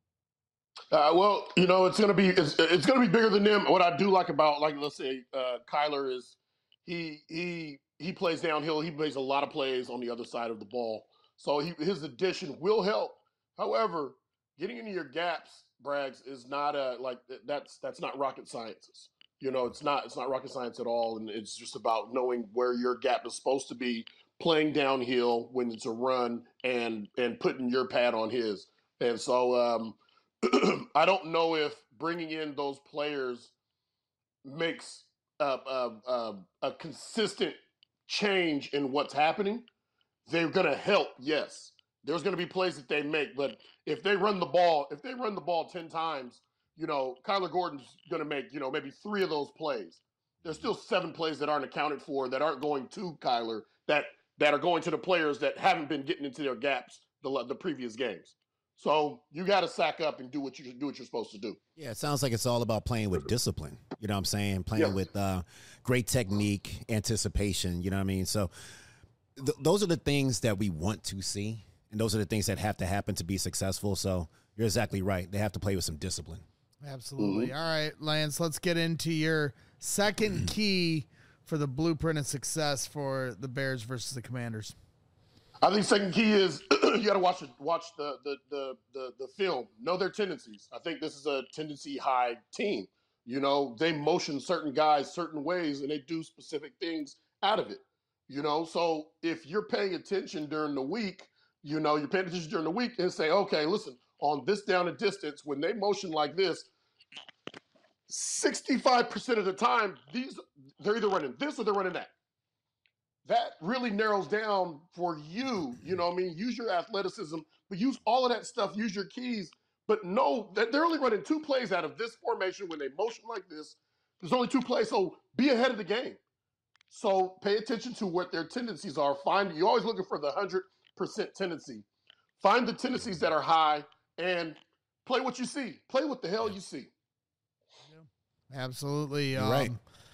Uh, well, you know, it's gonna be it's, it's gonna be bigger than them. What I do like about, like, let's say uh, Kyler is he he. He plays downhill. He makes a lot of plays on the other side of the ball. So he, his addition will help. However, getting into your gaps, Braggs, is not a like that's that's not rocket science. You know, it's not it's not rocket science at all. And it's just about knowing where your gap is supposed to be, playing downhill when it's a run, and and putting your pad on his. And so um, I don't know if bringing in those players makes a, a, a, a consistent change in what's happening. They're going to help, yes. There's going to be plays that they make, but if they run the ball, if they run the ball ten times, you know, Kyler Gordon's going to make, you know, maybe three of those plays. There's still seven plays that aren't accounted for, that aren't going to Kyler, that that are going to the players that haven't been getting into their gaps the the previous games. So you got to sack up and do what you do what you're supposed to do. Yeah, it sounds like it's all about playing with discipline. You know what I'm saying? Playing Yeah. with uh, great technique, anticipation. You know what I mean? So th- those are the things that we want to see, and those are the things that have to happen to be successful. So you're exactly right. They have to play with some discipline. Absolutely. All right, Lance, let's get into your second key for the blueprint of success for the Bears versus the Commanders. I think second key is you got to watch it, watch the, the the the the film, know their tendencies. I think this is a tendency high team. You know, they motion certain guys certain ways, and they do specific things out of it. You know, so if you're paying attention during the week, you know, you're paying attention during the week and say, okay, listen, on this down and distance, when they motion like this, sixty-five percent of the time, these they're either running this or they're running that. That really narrows down for you, you know what I mean? Use your athleticism, but use all of that stuff, use your keys, but know that they're only running two plays out of this formation when they motion like this. There's only two plays, so be ahead of the game. So pay attention to what their tendencies are. Find You're always looking for the one hundred percent tendency. Find the tendencies that are high and play what you see. Play what the hell you see. Absolutely. You're um, right.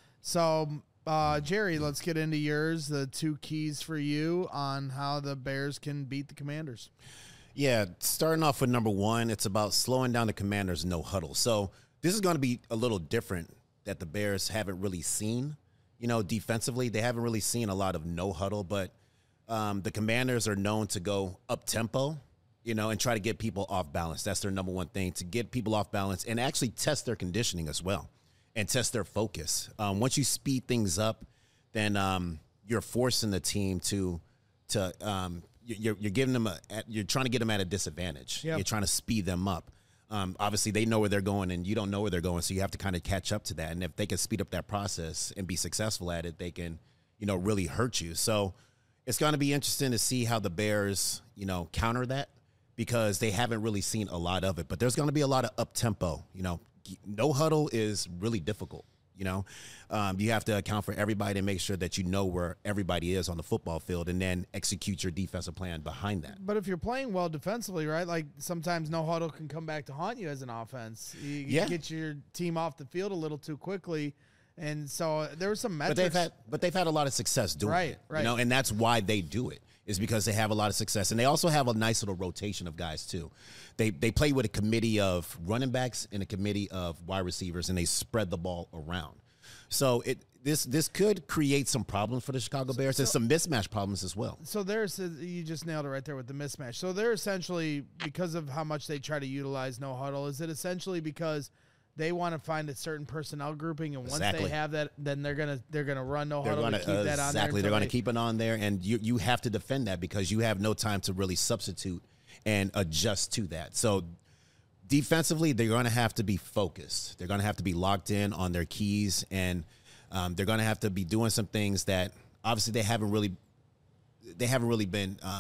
So, uh, Jerry, let's get into yours, the two keys for you on how the Bears can beat the Commanders. Yeah, starting off with number one, it's about slowing down the Commanders' no huddle. So this is going to be a little different that the Bears haven't really seen. You know, defensively, they haven't really seen a lot of no huddle, but um, the Commanders are known to go up-tempo, you know, and try to get people off balance. That's their number one thing, to get people off balance and actually test their conditioning as well and test their focus. Um, once you speed things up, then um, you're forcing the team to to um, you're you're giving them a you're trying to get them at a disadvantage. Yep. You're trying to speed them up. Um, obviously, they know where they're going, and you don't know where they're going, so you have to kind of catch up to that. And if they can speed up that process and be successful at it, they can, you know, really hurt you. So it's going to be interesting to see how the Bears, you know, counter that, because they haven't really seen a lot of it. But there's going to be a lot of up-tempo. You know, no huddle is really difficult. You know, um, you have to account for everybody and make sure that you know where everybody is on the football field, and then execute your defensive plan behind that. But if you're playing well defensively, right, like sometimes no huddle can come back to haunt you as an offense. You, you Yeah. get your team off the field a little too quickly. And so there were some metrics. But they've had, but they've had a lot of success doing Right, it, right. you know, and that's why they do it, is because they have a lot of success, and they also have a nice little rotation of guys too. They they play with a committee of running backs and a committee of wide receivers, and they spread the ball around. So it this this could create some problems for the Chicago Bears, and some mismatch problems as well. So there's you just nailed it right there with the mismatch. So they're essentially, because of how much they try to utilize no huddle, is it essentially because they want to find a certain personnel grouping, and once Exactly. they have that, then they're gonna they're gonna run no They're huddle going to to keep that on there. exactly. They're until going to they- keep it on there, and you you have to defend that because you have no time to really substitute and adjust to that. So defensively, they're going to have to be focused. They're going to have to be locked in on their keys, and um, they're going to have to be doing some things that obviously they haven't really they haven't really been um,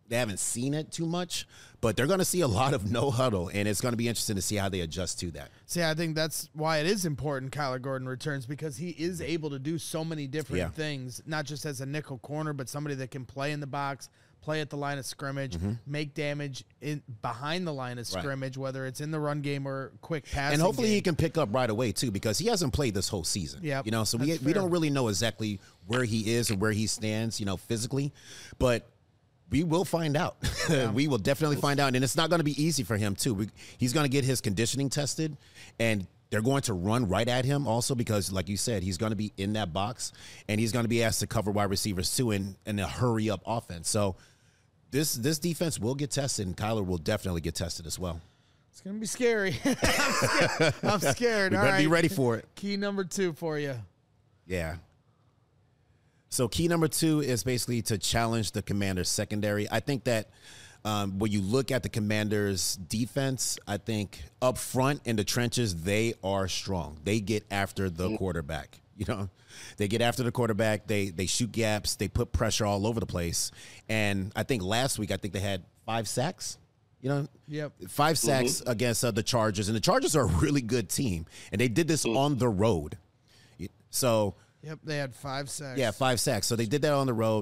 they haven't seen it too much, but they're going to see a lot of no huddle, and it's going to be interesting to see how they adjust to that. See, I think that's why it is important Kyler Gordon returns, because he is able to do so many different Yeah. things, not just as a nickel corner, but somebody that can play in the box, play at the line of scrimmage, mm-hmm. make damage in behind the line of scrimmage, right. whether it's in the run game or quick passing. And hopefully game. he can pick up right away too, because he hasn't played this whole season. Yeah, you know, so we we don't really know exactly where he is and where he stands, you know, physically, but we will find out. Yeah. We will definitely find out, and it's not going to be easy for him too. We, he's going to get his conditioning tested, and they're going to run right at him also because, like you said, he's going to be in that box, and he's going to be asked to cover wide receivers too in, in a hurry-up offense. So this this defense will get tested, and Kyler will definitely get tested as well. It's going to be scary. I'm scared. I'm scared. We All better right. be ready for it. Key number two for you. Yeah. So key number two is basically to challenge the Commanders' secondary. I think that um, when you look at the Commanders' defense, I think up front in the trenches, they are strong. They get after the quarterback. You know, they get after the quarterback. They they shoot gaps. They put pressure all over the place. And I think last week, I think they had five sacks. You know, yep. five sacks mm-hmm. against uh, the Chargers. And the Chargers are a really good team. And they did this mm-hmm. on the road. So, yep, they had five sacks. Yeah, five sacks. So they did that on the road.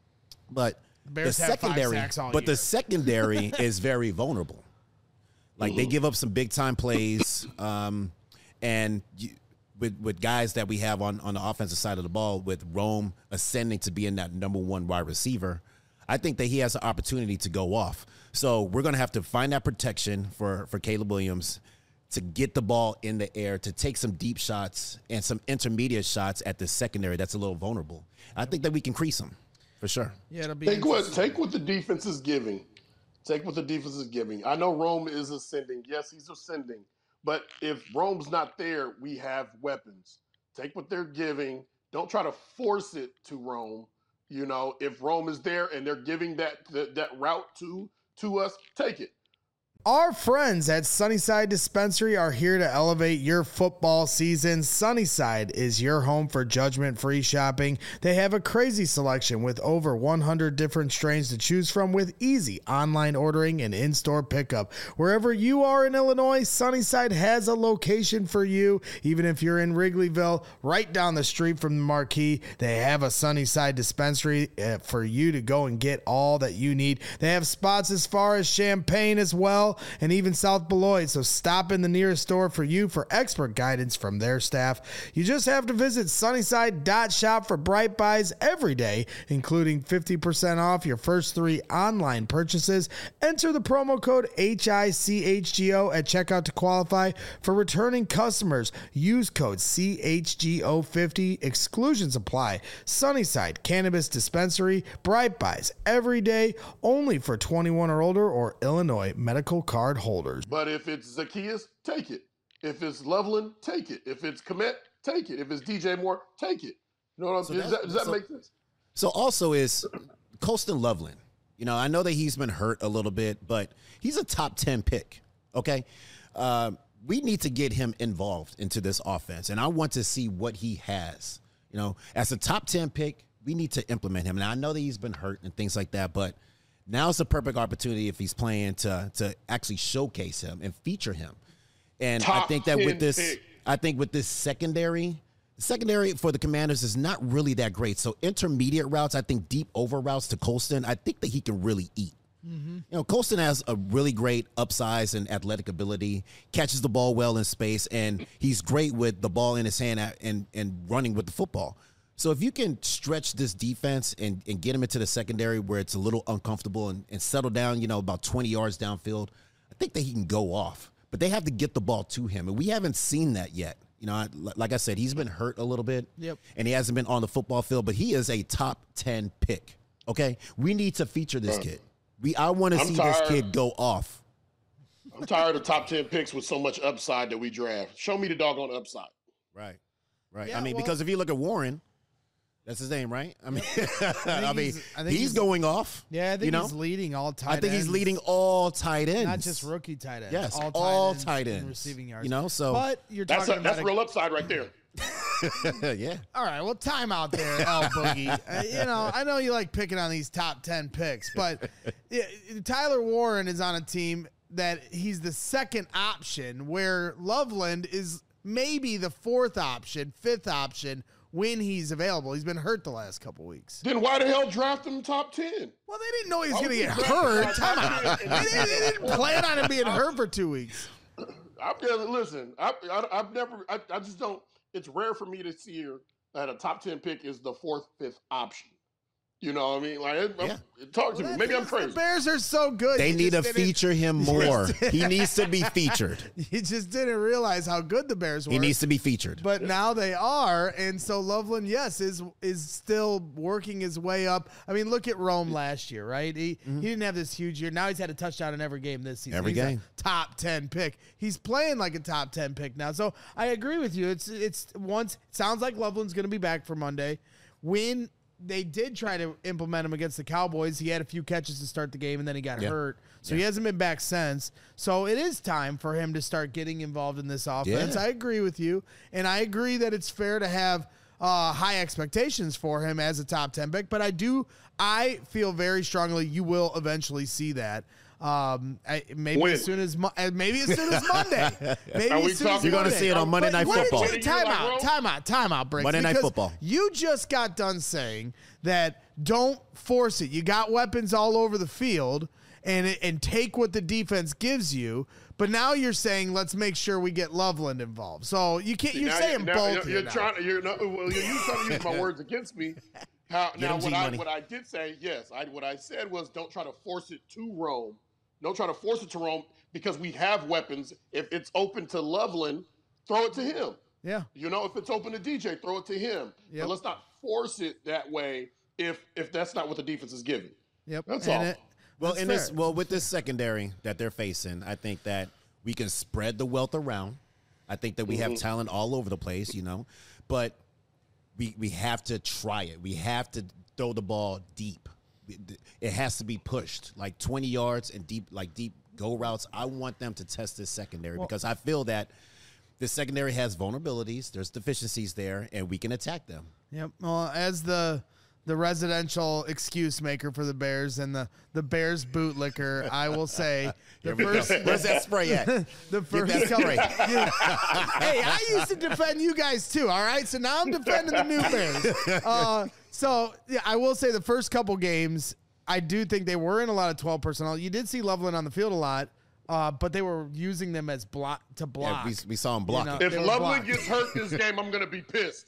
But the, Bears the have secondary, five sacks all but year. the secondary is very vulnerable. Like mm-hmm. they give up some big time plays, um, and you, with with guys that we have on on the offensive side of the ball, with Rome ascending to being that number one wide receiver, I think that he has an opportunity to go off. So we're going to have to find that protection for for Caleb Williams to get the ball in the air, to take some deep shots and some intermediate shots at the secondary that's a little vulnerable. I think that we can crease them for sure. Yeah, it'll be take what take what the defense is giving. Take what the defense is giving. I know Rome is ascending. Yes, he's ascending. But if Rome's not there, we have weapons. Take what they're giving. Don't try to force it to Rome. You know, if Rome is there and they're giving that that, that route to to us, take it. Our friends at Sunnyside Dispensary are here to elevate your football season. Sunnyside is your home for judgment-free shopping. They have a crazy selection with over one hundred different strains to choose from, with easy online ordering and in-store pickup. Wherever you are in Illinois, Sunnyside has a location for you. Even if you're in Wrigleyville, right down the street from the Marquee, they have a Sunnyside Dispensary for you to go and get all that you need. They have spots as far as Champaign as well, and even South Beloit, so stop in the nearest store for you for expert guidance from their staff. You just have to visit sunnyside dot shop for Bright Buys every day, including fifty percent off your first three online purchases. Enter the promo code H I C H G O at checkout to qualify. For returning customers, use code C H G O fifty. Exclusions apply. Sunnyside Cannabis Dispensary, Bright Buys every day, only for twenty-one or older or Illinois medical card holders. But if it's Zacchaeus, take it. If it's Loveland, take it. If it's Komet, take it. If it's D J Moore, take it. You know what I'm saying? So does that, does that so, make sense? So also is Colston Loveland. You know, I know that he's been hurt a little bit, but he's a top ten pick. Okay. Uh, we need to get him involved into this offense, and I want to see what he has. You know, as a top ten pick, we need to implement him. And I know that he's been hurt and things like that, but now's the perfect opportunity if he's playing to to actually showcase him and feature him. And Top I think that with this, pick. I think with this secondary, the secondary for the Commanders is not really that great. So intermediate routes, I think deep over routes to Colston, I think that he can really eat. Mm-hmm. You know, Colston has a really great upsize and athletic ability, catches the ball well in space, and he's great with the ball in his hand and and running with the football. So if you can stretch this defense and, and get him into the secondary where it's a little uncomfortable and, and settle down, you know, about twenty yards downfield, I think that he can go off. But they have to get the ball to him, and we haven't seen that yet. You know, like I said, he's been hurt a little bit, yep. and he hasn't been on the football field, but he is a top ten pick, okay? We need to feature this kid. We I want to see tired. this kid go off. I'm tired of top ten picks with so much upside that we draft. Show me the doggone upside. Right, right. Yeah, I mean, well, because if you look at Warren, that's his name, right? I mean, I, I mean, he's, I think he's, he's going off. Yeah, I think you know? he's leading all tight I think ends. he's leading all tight ends, Not just rookie tight ends. Yes, all tight all ends tight in ends. receiving yards. You know, so but you're That's talking a, about that's a, real upside right there. yeah. All right, well, time out there, L Boogie. Uh, you know, I know you like picking on these top ten picks, but yeah, Tyler Warren is on a team that he's the second option, where Loveland is maybe the fourth option, fifth option when he's available. He's been hurt the last couple weeks. Then why the hell draft him top ten? Well, they didn't know he was Why going to would get you draft hurt. him Time top out. ten? They didn't, they didn't plan on him being hurt for two weeks. I'm just, listen, I, I, I've never, I, I just don't, it's rare for me to see her that a top ten pick is the fourth, fifth option. You know what I mean? Like, it, Yeah. it, talk to Well, me. Maybe I'm the crazy. Bears are so good. They You need to just didn't- feature him more. He needs to be featured. You just didn't realize how good the Bears were. He needs to be featured. But now they are, and so Loveland, yes, is is still working his way up. I mean, look at Rome last year, right? He Mm-hmm. he didn't have this huge year. Now he's had a touchdown in every game this season. Every He's a game. top ten pick. He's playing like a top ten pick now. So I agree with you. It's it's once it sounds like Loveland's going to be back for Monday. When they did try to implement him against the Cowboys, he had a few catches to start the game, and then he got Yeah. hurt. So Yeah. he hasn't been back since. So it is time for him to start getting involved in this offense. Yeah. I agree with you, and I agree that it's fair to have uh, high expectations for him as a top ten pick. But I do, I feel very strongly you will eventually see that. Um, I, maybe When? as soon as Mo- uh, maybe as soon as Monday. Maybe Are we as soon as talking- You're going to Monday. see it on Monday But Night what did Football. you- Time out, time out, time out, Briggs. Monday Night because Football. You just got done saying that don't force it. You got weapons all over the field, and and take what the defense gives you. But now you're saying let's make sure we get Loveland involved. So you can't. You're Now saying now both. You're, here you're now. trying to. You're not. Well, you're trying to use my words against me. How, now, him what I G-Money. what I did say, yes, I what I said was don't try to force it to Rome. Don't try to force it to Rome because we have weapons. If it's open to Loveland, throw it to him. Yeah. You know, if it's open to D J, throw it to him. Yep. But let's not force it that way if if that's not what the defense is giving. Yep. That's And all. it- Well, that's in this, fair. well, with this secondary that they're facing, I think that we can spread the wealth around. I think that we have talent all over the place, you know, but we we have to try it. We have to throw the ball deep. It has to be pushed like twenty yards and deep, like deep go routes. I want them to test this secondary because I feel that the secondary has vulnerabilities. There's deficiencies there, and we can attack them. Yep. Well, as the the residential excuse maker for the Bears and the the Bears bootlicker, I will say the Here we go. first Where's that spray at? the first that couple. spray. Yeah. Hey, I used to defend you guys too. All right, so now I'm defending the new Bears. Uh, so yeah, I will say the first couple games, I do think they were in a lot of twelve personnel. You did see Loveland on the field a lot, uh, but they were using them as block to block. Yeah, we, we saw him block know, it. If They were Loveland blocked. gets hurt this game, I'm gonna be pissed.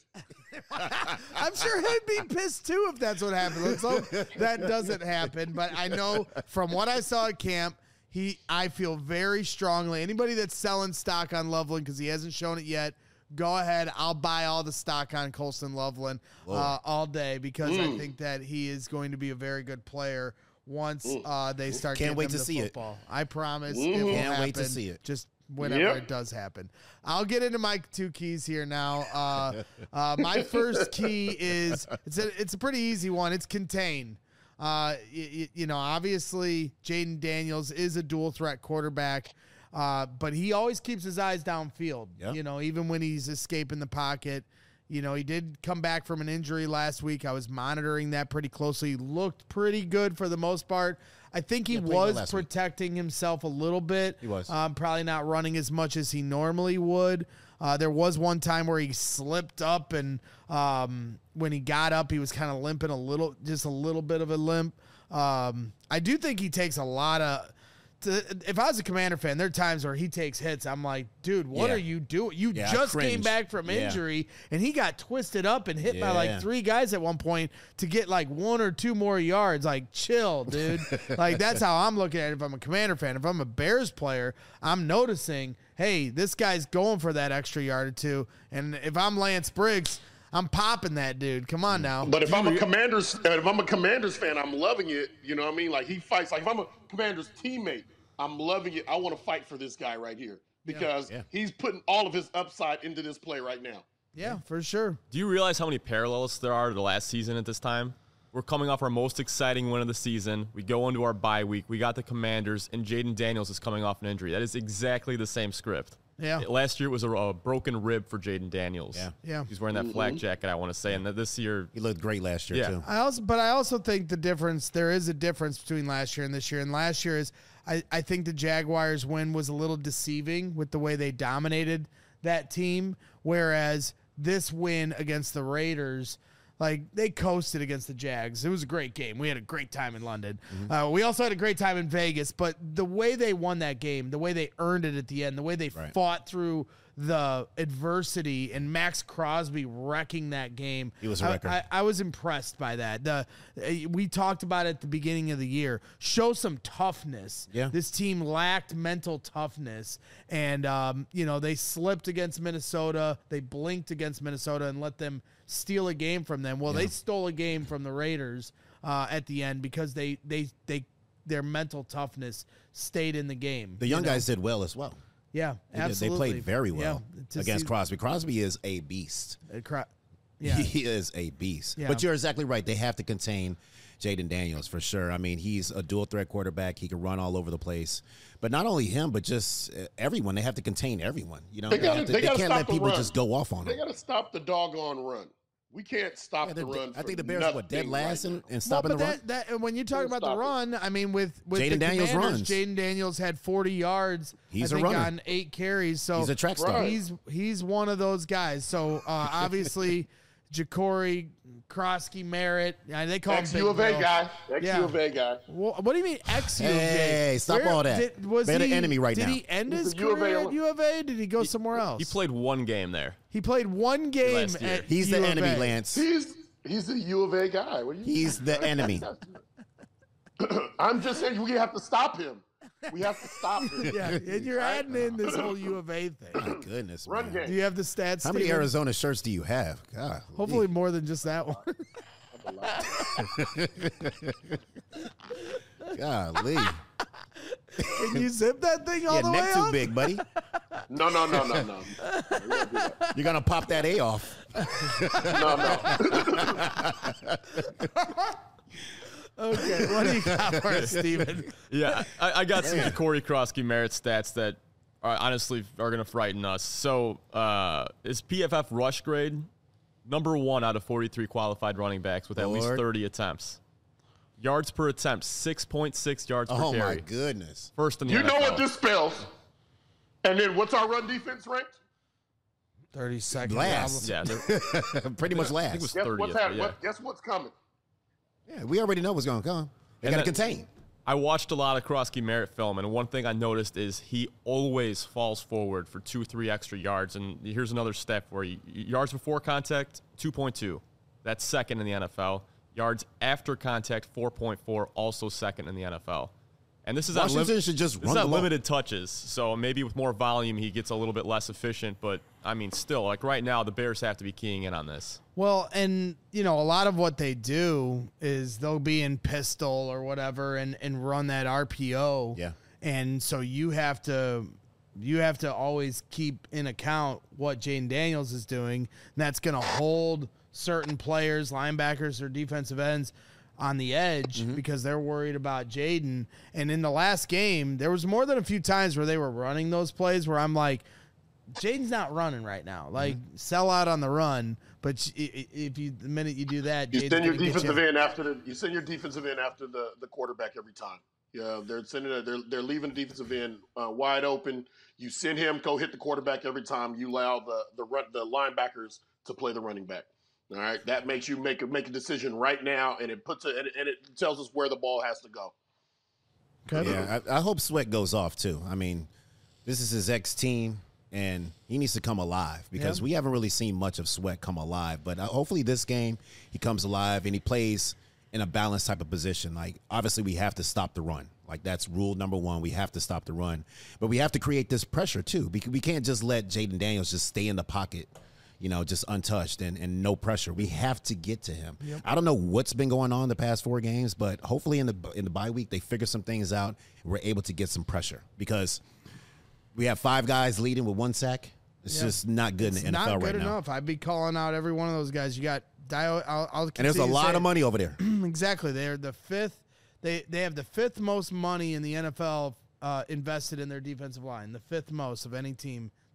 I'm sure he'd be pissed too if that's what happened. Let's hope that doesn't happen. But I know from what I saw at camp, he I feel very strongly. Anybody that's selling stock on Loveland because he hasn't shown it yet, go ahead. I'll buy all the stock on Colston Loveland uh, all day because Mm. I think that he is going to be a very good player once uh, they start. Can't getting wait him to the see it. football. I promise. It Mhm. will Can't wait to happen. see it. Just whenever Yep. it does happen. I'll get into my two keys here now. Uh, uh, my first key is it's a it's a pretty easy one. It's contain. Uh, you, you know, obviously Jaden Daniels is a dual threat quarterback, uh, but he always keeps his eyes downfield. Yep. You know, even when he's escaping the pocket. You know, he did come back from an injury last week. I was monitoring that pretty closely. He looked pretty good for the most part. I think he Yeah, played well was last week. protecting himself a little bit. He was. Um, probably not running as much as he normally would. Uh, there was one time where he slipped up, and um, when he got up, he was kind of limping a little, just a little bit of a limp. Um, I do think he takes a lot of. To, if I was a Commander fan, there are times where he takes hits. I'm like, dude, what Yeah. are you doing? You Yeah, I just came cringed. back from Yeah. injury, and he got twisted up and hit by like Yeah. three guys at one point to get like one or two more yards. Like, chill, dude. Like, that's how I'm looking at it if I'm a Commander fan. If I'm a Bears player, I'm noticing, hey, this guy's going for that extra yard or two. And if I'm Lance Briggs, I'm popping that dude. Come on now. But if I'm a Commanders, if I'm a Commanders fan, I'm loving it. You know what I mean? Like he fights. Like if I'm a Commanders teammate, I'm loving it. I want to fight for this guy right here because Yeah. he's putting all of his upside into this play right now. Yeah, for sure. Do you realize how many parallels there are to the last season at this time? We're coming off our most exciting win of the season. We go into our bye week. We got the Commanders, and Jaden Daniels is coming off an injury. That is exactly the same script. Yeah. Last year it was a, a broken rib for Jaden Daniels. Yeah. Yeah. He's wearing that flak jacket, I want to say. And this year, He looked great last year, Yeah. too. I also, but I also think the difference, there is a difference between last year and this year. And last year is, I, I think the Jaguars win was a little deceiving with the way they dominated that team. Whereas this win against the Raiders, like they coasted against the Jags. It was a great game. We had a great time in London. Mm-hmm. Uh, we also had a great time in Vegas, but the way they won that game, the way they earned it at the end, the way they Right. fought through the adversity and Max Crosby wrecking that game. He was a I- wrecker. I, I was impressed by that. The uh, we talked about it at the beginning of the year. Show some toughness. Yeah. This team lacked mental toughness, and um, you know they slipped against Minnesota. They blinked against Minnesota and let them steal a game from them. Well, they stole a game from the Raiders uh, at the end because they they they their mental toughness stayed in the game. The young you know? guys did well as well. yeah, They, did. absolutely. They played very well Yeah, to against see- Crosby. Crosby is a beast. uh, cro- Yeah, He is a beast. Yeah. But you're exactly right. They have to contain Jaden Daniels for sure. I mean, he's a dual threat quarterback. He can run all over the place. But not only him, but just uh, everyone. They have to contain everyone. You know, They they, gotta- have to- they they gotta can't stop let the people run. just go off on They them. got to stop the doggone run. We can't stop Yeah, the they're- run. I for think the Bears are what, dead nothing last right in, now. in stopping well, the but run. that, that, when you talk Don't about the stop it. run, I mean, with, with Jaden the Daniels Commanders, runs. Jaden Daniels had forty yards. He's I a think runner. on eight carries. So He's a track star. Right. He's he's one of those guys. So uh, obviously, Ja'Cory, Krosky, Merritt. Uh, they call him Ex Big U of A Bill. guy. Ex Yeah. U of A guy. Well, what do you mean ex U of A? Hey, stop Where- all that. Did, was They're the he, enemy right did now. he end He's his a U of A career at alum. U of A? Did he go somewhere else? he played one game there. He played one game Last year. at He's U the of enemy, A. Lance. He's he's a U of A guy. What do you He's the enemy. I'm just saying we have to stop him. We have to stop him. Yeah, and you're adding in this whole U of A thing. My goodness, Run man. Do game. you have the stats? How many Steven? Arizona shirts do you have? God, Hopefully more than just that one. golly. Can you zip that thing all Yeah, the way neck too up? big, buddy. No, no, no, no, no. We don't do that. You're gonna pop that A off. No, no. Okay, what do you got for us, Steven? Yeah, I, I got some Corey Krosky merit stats that are honestly are going to frighten us. So uh, his P F F rush grade, number one out of forty-three qualified running backs with at least Lord. thirty attempts. Yards per attempt, six point six yards per Oh carry. my goodness. First in the You N F L. know what this spells. And then what's our run defense ranked? thirty seconds. Last. Yeah, they're- Pretty much I think it last. was Guess thirtieth. what's but happening? yeah. What, guess what's coming? Yeah, we already know what's gonna come. They And gotta then- contain. I watched a lot of Krosky Merit film, and one thing I noticed is he always falls forward for two, three extra yards. And here's another stat for you: yards before contact, two point two. That's second in the N F L. Yards after contact, four point four, also second in the N F L. And this is on, Washington lim- should just this run is the on ball. limited touches, so maybe with more volume he gets a little bit less efficient. But I mean, still, like right now, the Bears have to be keying in on this. Well, and you know, a lot of what they do is they'll be in pistol or whatever and, and run that R P O. Yeah. And so you have to you have to always keep in account what Jaden Daniels is doing. And that's gonna hold certain players, linebackers or defensive ends on the edge Mm-hmm. because they're worried about Jaden. And in the last game, there was more than a few times where they were running those plays where I'm like, Jaden's not running right now. Like, Mm-hmm. sell out on the run, but i- i- if you the minute you do that, You Jaden's send your gonna get defensive you. end after the. You send your defensive end after the, the quarterback every time. Yeah, they're sending. it- They're they're leaving the defensive end uh, wide open. You send him go hit the quarterback every time. You allow the the run, the linebackers to play the running back. All right, that makes you make a make a decision right now, and it puts it and it, and it tells us where the ball has to go. Okay. Yeah, I, I hope Sweat goes off too. I mean, this is his ex team, and he needs to come alive because Yeah. we haven't really seen much of Sweat come alive. But uh, hopefully, this game he comes alive and he plays in a balanced type of position. Like, obviously, we have to stop the run. Like, that's rule number one. We have to stop the run, but we have to create this pressure too. Because we can't just let Jaden Daniels just stay in the pocket, you know, just untouched and, and no pressure. We have to get to him. I don't know what's been going on the past four games, but hopefully in the in the bye week they figure some things out. And we're able to get some pressure because we have five guys leading with one sack. It's Yeah. just not good It's in the N F L not good right now. enough. I'd be calling out every one of those guys. You got Dio. I'll, I'll And there's a continue to lot say of money over there. it. Exactly. They're the fifth. They they have the fifth most money in the N F L uh, invested in their defensive line. The fifth most of any team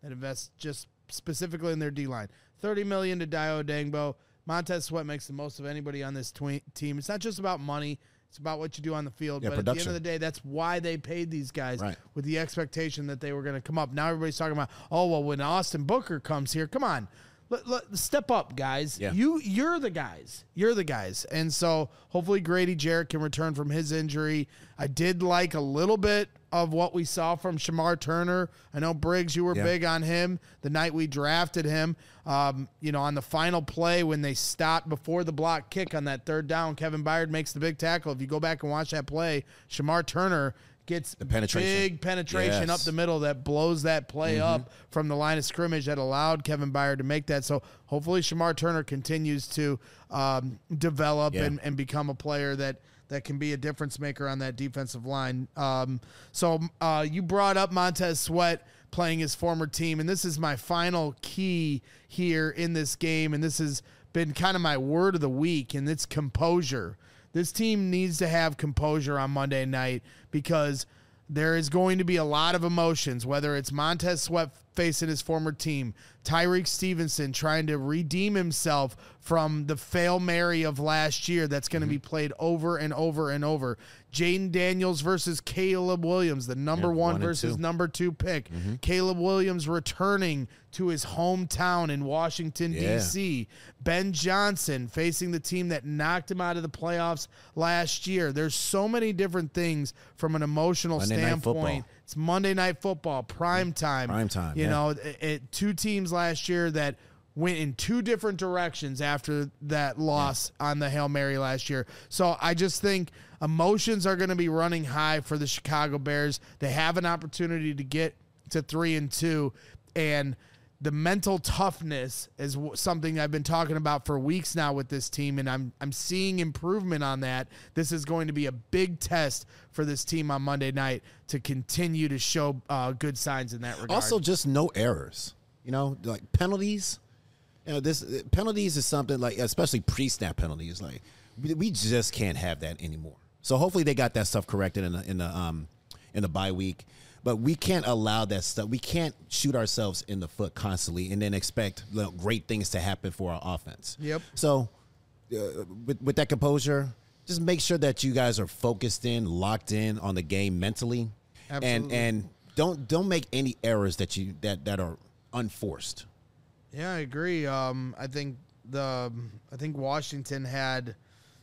that invests just specifically in their D-line. thirty million dollars to Dio Dangbo. Montez Sweat makes the most of anybody on this tw- team. It's not just about money. It's about what you do on the field. Yeah, but production. at the end of the day, that's why they paid these guys Right. with the expectation that they were going to come up. Now everybody's talking about, oh, well, when Austin Booker comes here, come on. Let, let, step up, guys. Yeah. You, you're the guys. You're the guys. And so hopefully Grady Jarrett can return from his injury. I did like a little bit of what we saw from Shamar Turner. I know, Briggs, you were Yeah. big on him the night we drafted him. Um, you know, on the final play when they stopped before the block kick on that third down, Kevin Byard makes the big tackle. If you go back and watch that play, Shamar Turner gets The penetration. big penetration Yes. up the middle that blows that play Mm-hmm. up from the line of scrimmage that allowed Kevin Byard to make that. So hopefully Shamar Turner continues to um, develop Yeah. and, and become a player that that can be a difference maker on that defensive line. Um, so uh, you brought up Montez Sweat playing his former team, and this is my final key here in this game, and this has been kind of my word of the week, and it's composure. This team needs to have composure on Monday night because there is going to be a lot of emotions, whether it's Montez Sweat facing his former team, Tyreek Stevenson trying to redeem himself from the Fail Mary of last year that's going to be played over and over and over. Jaden Daniels versus Caleb Williams, the number Yeah, one, one and versus two. number two pick. Caleb Williams returning to his hometown in Washington, Yeah. D C Ben Johnson facing the team that knocked him out of the playoffs last year. There's so many different things from an emotional Monday Night standpoint. Football. It's Monday Night Football, prime time. Prime time, You yeah. know, it, it, two teams last year that went in two different directions after that loss on the Hail Mary last year. So I just think emotions are going to be running high for the Chicago Bears. They have an opportunity to get to three and two, and the mental toughness is w- something I've been talking about for weeks now with this team, and I'm I'm seeing improvement on that. This is going to be a big test for this team on Monday night to continue to show uh, good signs in that regard. Also, just no errors. You know, like penalties. You know, this penalties is something like, especially pre-snap penalties. Like, we, we just can't have that anymore. So hopefully they got that stuff corrected in the in the um in the bye week. But we can't allow that stuff. We can't shoot ourselves in the foot constantly and then expect, you know, great things to happen for our offense. Yep. So uh, with with that composure, just make sure that you guys are focused in, locked in on the game mentally, Absolutely. and and don't don't make any errors that you that that are unforced. Yeah, I agree. Um, I think the I think Washington had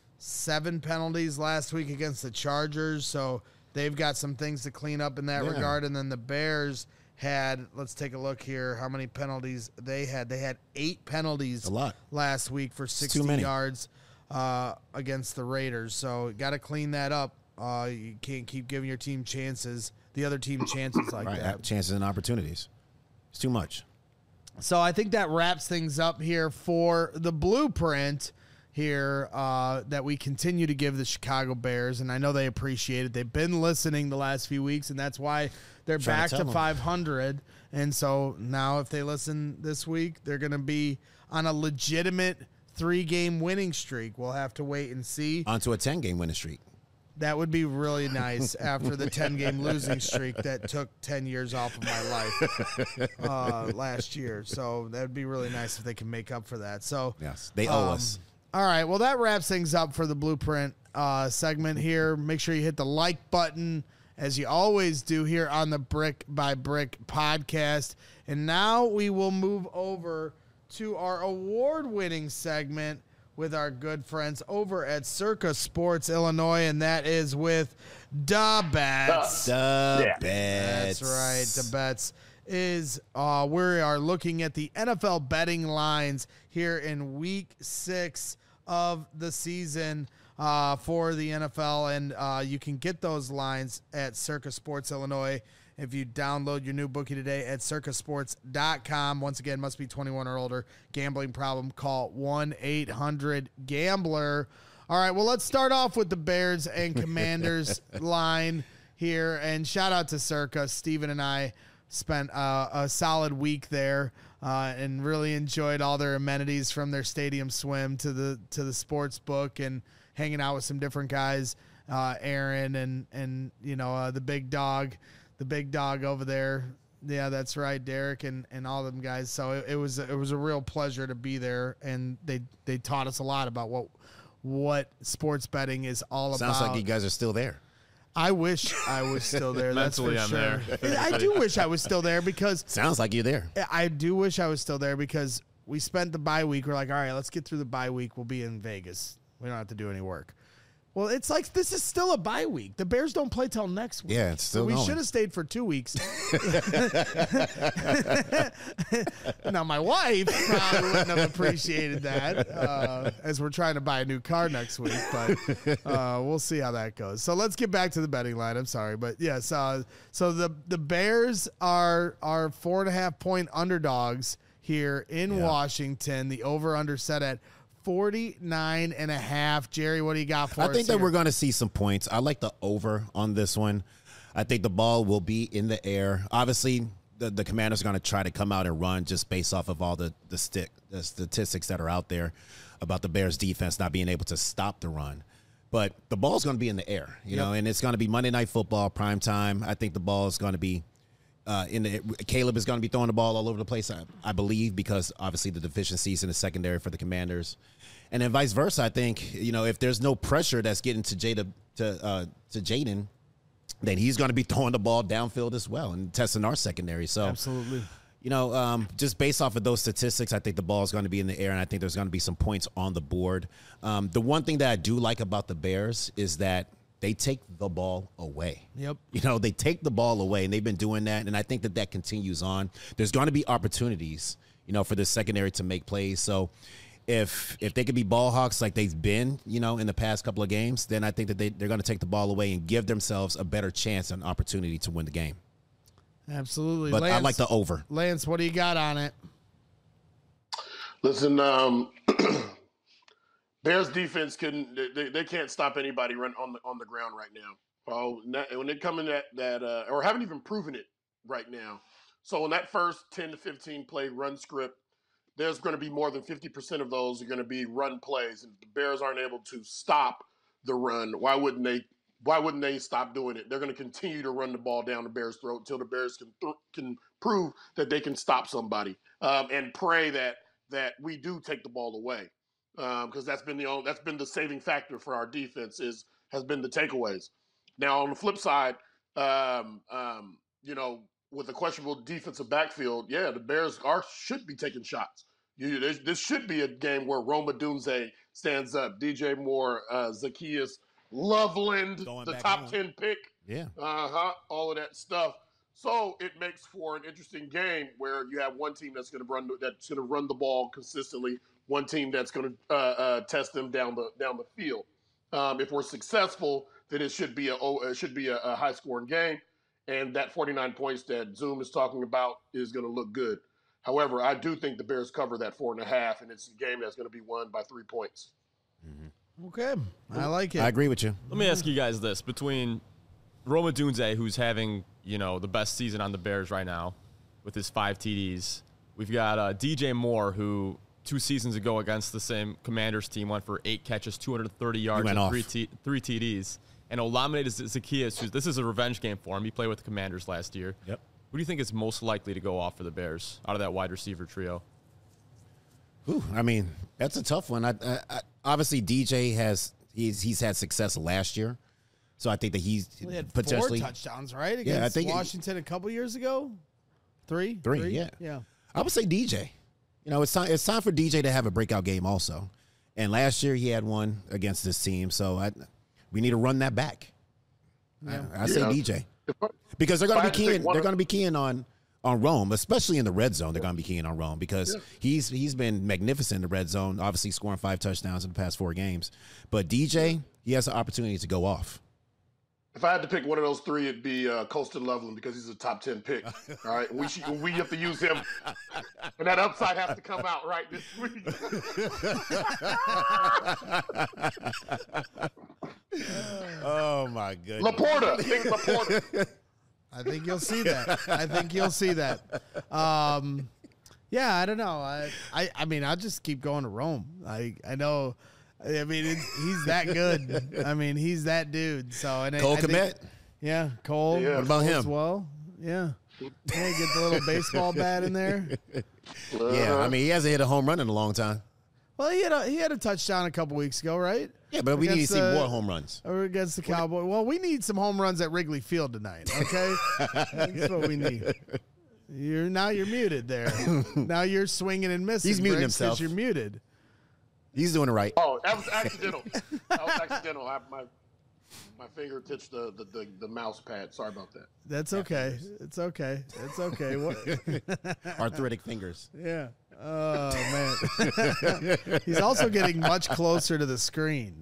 seven penalties last week against the Chargers, so they've got some things to clean up in that Yeah. regard. And then the Bears had, let's take a look here, how many penalties they had. They had eight penalties A lot. last week for sixty too many. yards uh, against the Raiders. So got to clean that up. Uh, you can't keep giving your team chances, the other team chances like Right, that. chances and opportunities. It's too much. So I think that wraps things up here for the blueprint here uh, that we continue to give the Chicago Bears, and I know they appreciate it. They've been listening the last few weeks, and that's why they're Trying to back tell to 'em. five hundred. And so now if they listen this week, they're going to be on a legitimate three-game winning streak. We'll have to wait and see. Onto a ten-game winning streak. That would be really nice after the ten-game losing streak that took ten years off of my life uh, last year. So that would be really nice if they can make up for that. So Yes, they owe um, us. All right, well, that wraps things up for the Blueprint uh, segment here. Make sure you hit the like button, as you always do here on the Brick by Brick podcast. And now we will move over to our award-winning segment with our good friends over at Circa Sports Illinois, and that is with Da Bets. The Yeah. bets. That's right. The bets is uh, we are looking at the N F L betting lines here in week six of the season uh, for the N F L, and uh, you can get those lines at Circa Sports Illinois if you download your new bookie today at circa sports dot com. Once again, must be twenty-one or older. Gambling problem, call one eight hundred gambler. All right, well, let's start off with the Bears and Commanders line here, and shout out to Circa. Steven and I spent uh, a solid week there uh, and really enjoyed all their amenities, from their stadium swim to the to the sports book, and hanging out with some different guys, uh, Aaron and and you know uh, the big dog, the big dog over there, Yeah, that's right, Derek and, and all them guys. So it, it was it was a real pleasure to be there, and they they taught us a lot about what what sports betting is all Sounds about. like you guys are still there. I wish I was still there. That's for Mentally, I'm sure. there. I do wish I was still there because Sounds like you're there. I do wish I was still there because we spent the bye week. We're like, all right, let's get through the bye week. We'll be in Vegas. We don't have to do any work. Well, it's like this is still a bye week. The Bears don't play till next week. Yeah, it's still so we going. should have stayed for two weeks. Now, my wife probably wouldn't have appreciated that uh, as we're trying to buy a new car next week, but uh, we'll see how that goes. So let's get back to the betting line. I'm sorry, but yes. Uh, so the the Bears are are four and a half point underdogs here in Yeah. Washington. The over under set at forty-nine and a half. Jerry, what do you got for I us think that here? we're going to see some points. I like the over on this one. I think the ball will be in the air. Obviously, the, the Commanders are going to try to come out and run just based off of all the the, stick, the statistics that are out there about the Bears defense not being able to stop the run. But the ball's going to be in the air, you Yep. know, and it's going to be Monday Night Football, prime time. I think the ball is going to be uh, in the Caleb is going to be throwing the ball all over the place, I, I believe, because obviously the deficiencies in the secondary for the Commanders. And then vice versa, I think, you know, if there's no pressure that's getting to Jada to uh, to Jaden, then he's going to be throwing the ball downfield as well and testing our secondary. So, Absolutely. you know, um, just based off of those statistics, I think the ball is going to be in the air, and I think there's going to be some points on the board. Um, the one thing that I do like about the Bears is that they take the ball away. Yep. You know, they take the ball away, and they've been doing that, and I think that that continues on. There's going to be opportunities, you know, for the secondary to make plays. So if if they could be ball hawks like they've been, you know, in the past couple of games, then I think that they, they're going to take the ball away and give themselves a better chance and opportunity to win the game. Absolutely. But Lance, I like the over. Lance, what do you got on it? Listen, um, Bears defense can they, they can't stop anybody run on the on the ground right now. Oh, when they come in that that uh, or haven't even proven it right now. So in that first ten to fifteen play run script, there's going to be more than fifty percent of those are going to be run plays, and if the Bears aren't able to stop the run, why wouldn't they? Why wouldn't they stop doing it? They're going to continue to run the ball down the Bears' throat until the Bears can th- can prove that they can stop somebody, um, and pray that that we do take the ball away, because um, that's been the only, that's been the saving factor for our defense is has been the takeaways. Now on the flip side, um, um, you know, with a questionable defensive backfield, yeah, the Bears are should be taking shots. You, this, this should be a game where Rome Odunze stands up, D J Moore, uh, Zacchaeus Loveland, Going the back top home. ten pick, Yeah. uh-huh, all of that stuff. So it makes for an interesting game where you have one team that's going to run that's going to run the ball consistently, one team that's going to uh, uh, test them down the down the field. Um, if we're successful, then it should be a oh, it should be a, a high scoring game, and that forty-nine points that Zoom is talking about is going to look good. However, I do think the Bears cover that four and a half, and it's a game that's going to be won by three points. Okay. I like it. I agree with you. Let me ask you guys this. Between Rome Odunze, who's having, you know, the best season on the Bears right now with his five T Ds. We've got uh, D J Moore, who two seasons ago against the same Commanders team went for eight catches, two hundred thirty yards, went and off. three, T- three T Ds. And Olamide Zacchaeus, who's this is a revenge game for him. He played with the Commanders last year. Yep. Who do you think is most likely to go off for the Bears out of that wide receiver trio? Ooh, I mean, that's a tough one. I, I, I, obviously, D J has he's he's had success last year, so I think that he's We had potentially four touchdowns, right? Against Yeah, I think it- Washington a couple years ago. Three? Three, yeah. Yeah. I would say D J. You know, it's time it's time for D J to have a breakout game also. And last year he had one against this team, so I we need to run that back. Yeah. I, I say Yeah. D J If I- because they're if going I to had be to pick keying. one They're of- going to be keying on on Rome, especially in the red zone. They're going to be keying on Rome because Yeah. he's he's been magnificent in the red zone. Obviously, scoring five touchdowns in the past four games. But D J, he has an opportunity to go off. If I had to pick one of those three, it'd be uh, Colston Loveland because he's a top ten pick. All right, we should, we have to use him, and that upside has to come out right this week. Oh my goodness! Laporta, think Laporta. I think you'll see that. I think you'll see that. Um, yeah, I don't know. I, I, I mean, I'll just keep going to Rome. I, I know. I mean, it's, he's that good. I mean, he's that dude. So and I- Cole I think- Kmet. yeah, Cole. Yeah. What about Cole him? as well? Yeah. Hey, get the little baseball bat in there. Yeah, I mean, he hasn't hit a home run in a long time. Well, he had a he had a touchdown a couple weeks ago, right? Yeah, but we need to Against see the- more home runs. Or against the Cowboys. Well, we need some home runs at Wrigley Field tonight. Okay, that's what we need. You're now you're muted there. Now you're swinging and missing. He's muting Briggs, 'cause himself. You're muted. He's doing it right. Oh, that was accidental. That was accidental. I, my my finger touched the, the, the, the mouse pad. Sorry about that. That's okay. It's okay. It's okay. What? Arthritic fingers. Yeah. Oh man. He's also getting much closer to the screen.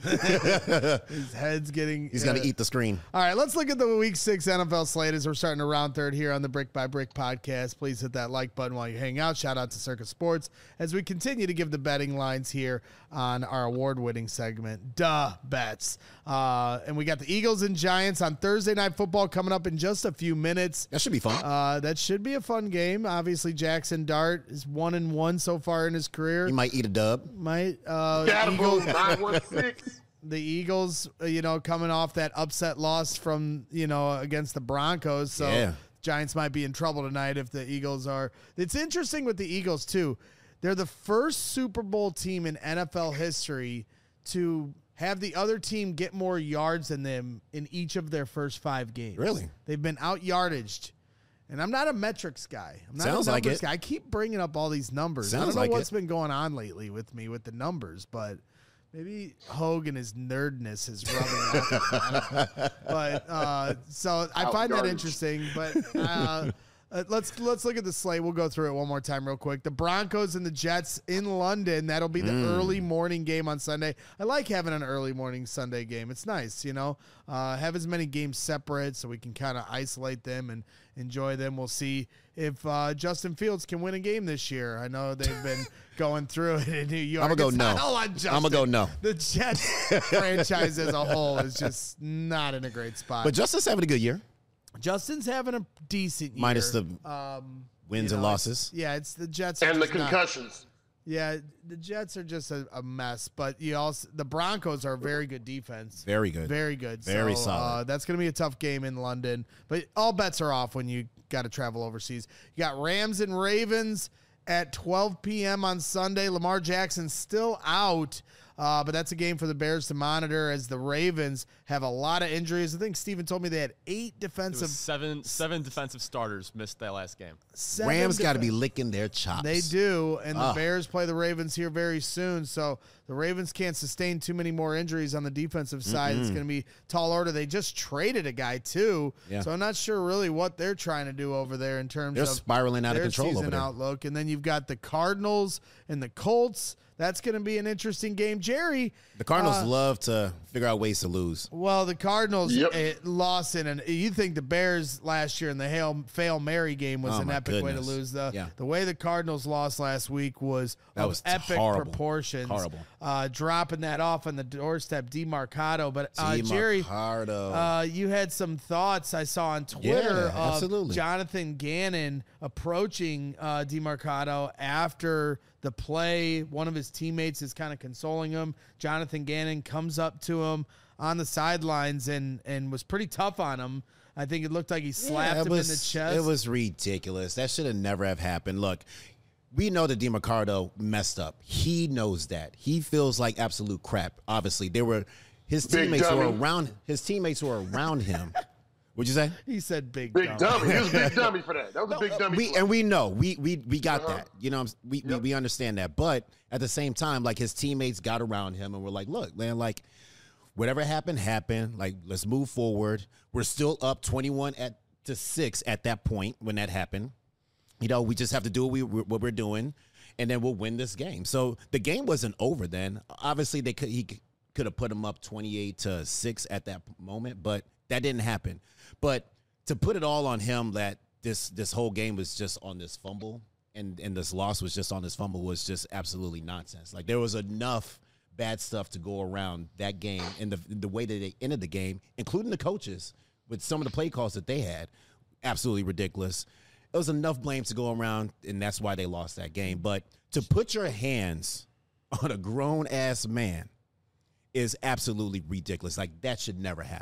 His head's getting. He's uh, going to eat the screen. All right, let's look at the Week Six N F L slate as we're starting to round third here on the Brick by Brick podcast. Please hit that like button while you hang out. Shout out to Circa Sports as we continue to give the betting lines here on our award-winning segment, Duh Bets. Uh, and we got the Eagles and Giants on Thursday Night Football coming up in just a few minutes. That should be fun. Uh, that should be a fun game. Obviously, Jackson Dart is one and one so far in his career. He might eat a dub. Might uh, Got him, Eagles, nine one six. the Eagles, uh, you know, coming off that upset loss from, you know, against the Broncos. So Yeah. Giants might be in trouble tonight if the Eagles are. It's interesting with the Eagles, too. They're the first Super Bowl team in N F L history to have the other team get more yards than them in each of their first five games. Really? They've been out yardaged. And I'm not a metrics guy. I'm not Sounds a like numbers it. guy. I keep bringing up all these numbers. I Sounds don't know like what's it. been going on lately with me with the numbers, but maybe Hogue and his nerdness is rubbing off. I don't know. But uh, so I Out find that yardage. interesting. But uh, uh, let's let's look at the slate. We'll go through it one more time real quick. The Broncos and the Jets in London. That'll be the Mm. early morning game on Sunday. I like having an early morning Sunday game. It's nice, you know. Uh, have as many games separate so we can kind of isolate them and enjoy them. We'll see if uh, Justin Fields can win a game this year. I know they've been going through it in New York. I'ma go It's no. not all on Justin. I'ma go no. The Jets franchise as a whole is just not in a great spot. But Justin's having a good year. Justin's having a decent year. Minus the um, wins you and know, losses. it's- Yeah, it's the Jets are And the just not- concussions. yeah, the Jets are just a, a mess. But you also the Broncos are a very good defense. Very good. Very good. Very so, solid. Uh, that's going to be a tough game in London. But all bets are off when you got to travel overseas. You got Rams and Ravens at twelve p.m. on Sunday. Lamar Jackson still out. Uh, but that's a game for the Bears to monitor as the Ravens have a lot of injuries. I think Steven told me they had eight It defensive. was seven seven defensive starters missed that last game. seven Rams got to defen- be licking their chops. They do, and the Ah. Bears play the Ravens here very soon. So the Ravens can't sustain too many more injuries on the defensive side. It's going to be tall order. They just traded a guy too, Yeah. so I'm not sure really what they're trying to do over there in terms They're of spiraling out of their control season over there. outlook. And then you've got the Cardinals and the Colts. That's going to be an interesting game, Jerry. The Cardinals uh, love to figure out ways to lose. Well, the Cardinals Yep. eh, lost in an. You think the Bears last year in the Hail Fail Mary game was Oh, an my epic way to goodness. lose. The Yeah. the way the Cardinals lost last week was That of was epic horrible. proportions. Horrible. Uh, dropping that off on the doorstep, DeMarcado. But uh, Jerry, Demarcado. uh, you had some thoughts I saw on Twitter Yeah, of absolutely. Jonathan Gannon approaching uh, DeMarcado after the play. One of his teammates is kind of consoling him. Jonathan Gannon comes up to him on the sidelines and and was pretty tough on him. I think it looked like he slapped Yeah, it him was, in the chest. It was ridiculous. That should have never have happened. Look, we know that DeMarcado messed up. He knows that. He feels like absolute crap. Obviously, there were his Big teammates were dummy. around. His teammates were around him. What'd you say? He said big, Big dumb. dummy. He was a big dummy for that. That was a big dummy. We for and we know we we we got Uh-huh. that. You know, we, we Yep. we understand that. But at the same time, like his teammates got around him and were like, "Look, man, like whatever happened happened. Like let's move forward. We're still up twenty-one at to six at that point when that happened. You know, we just have to do what we what we're doing, and then we'll win this game." So the game wasn't over then. Obviously, they could he could have put him up twenty-eight to six at that moment, but that didn't happen. But to put it all on him that this this whole game was just on this fumble and and this loss was just on this fumble was just absolutely nonsense. Like there was enough bad stuff to go around that game and the the way that they ended the game, including the coaches with some of the play calls that they had, absolutely ridiculous. It was enough blame to go around, and that's why they lost that game. But to put your hands on a grown ass man is absolutely ridiculous. Like that should never happen.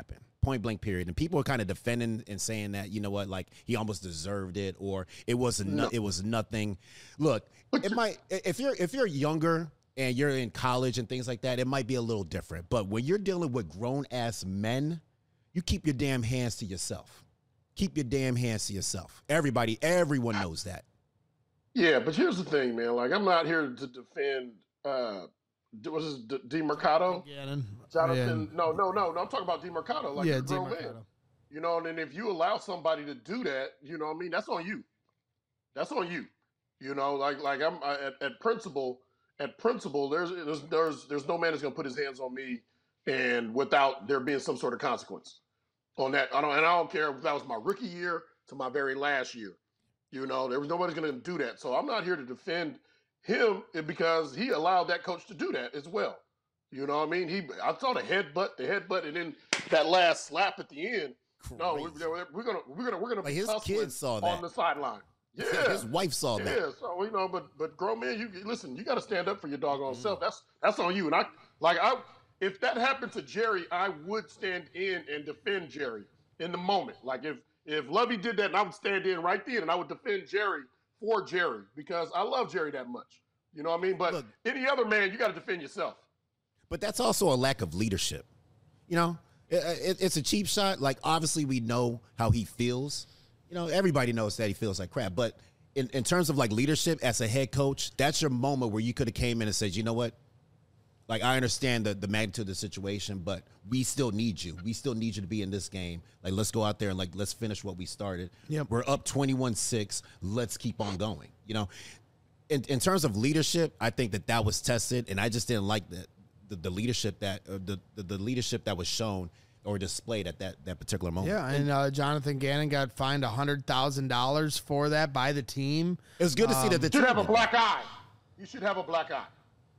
point blank period. And people are kind of defending and saying that, you know what, like he almost deserved it or it was no, No. it was nothing. Look, it might if you're if you're younger and you're in college and things like that, it might be a little different. But when you're dealing with grown ass men, you keep your damn hands to yourself. Keep your damn hands to yourself. Everybody, everyone knows that. Yeah, but here's the thing, man. Like, I'm not here to defend. Uh, what is D, D Mercado? Gannon. Jonathan? No, no, no, no. I'm talking about D Mercado. Like, Yeah, a grown man. DiMercato. You know, and then if you allow somebody to do that, you know what I mean? That's on you. That's on you. You know, like like I'm I, at, at principle. At principle, there's there's there's there's no man that's gonna put his hands on me, and without there being some sort of consequence on that. I don't and I don't care if that was my rookie year to my very last year. You know, there was nobody's gonna do that. So I'm not here to defend him because he allowed that coach to do that as well. You know what I mean? He I saw the headbutt, the headbutt, and then that last slap at the end. No, we're, we're gonna we're gonna we're gonna Like be his tussling kids saw on that. the sideline. Yeah, His wife saw that. yeah. So you know, but but grown man, you listen. You got to stand up for your doggone Mm-hmm. self. That's that's on you. And I like I if that happened to Jerry, I would stand in and defend Jerry in the moment. Like if if Lovey did that, and I would stand in right then, and I would defend Jerry for Jerry because I love Jerry that much. You know what I mean? But Look. any other man, you got to defend yourself. But that's also a lack of leadership. You know, it, it, it's a cheap shot. Like, obviously, we know how he feels. You know, everybody knows that he feels like crap. But in, in terms of, like, leadership as a head coach, that's your moment where you could have came in and said, you know what? Like, I understand the, the magnitude of the situation, but we still need you. We still need you to be in this game. Like, let's go out there and, like, let's finish what we started. Yep. We're up twenty-one six. Let's keep on going. You know, in, in terms of leadership, I think that that was tested, and I just didn't like that. The, the leadership that uh, the, the the leadership that was shown or displayed at that that particular moment. Yeah, and uh, Jonathan Gannon got fined a hundred thousand dollars for that by the team. It was good to see that the You should team have a did black eye. You should have a black eye.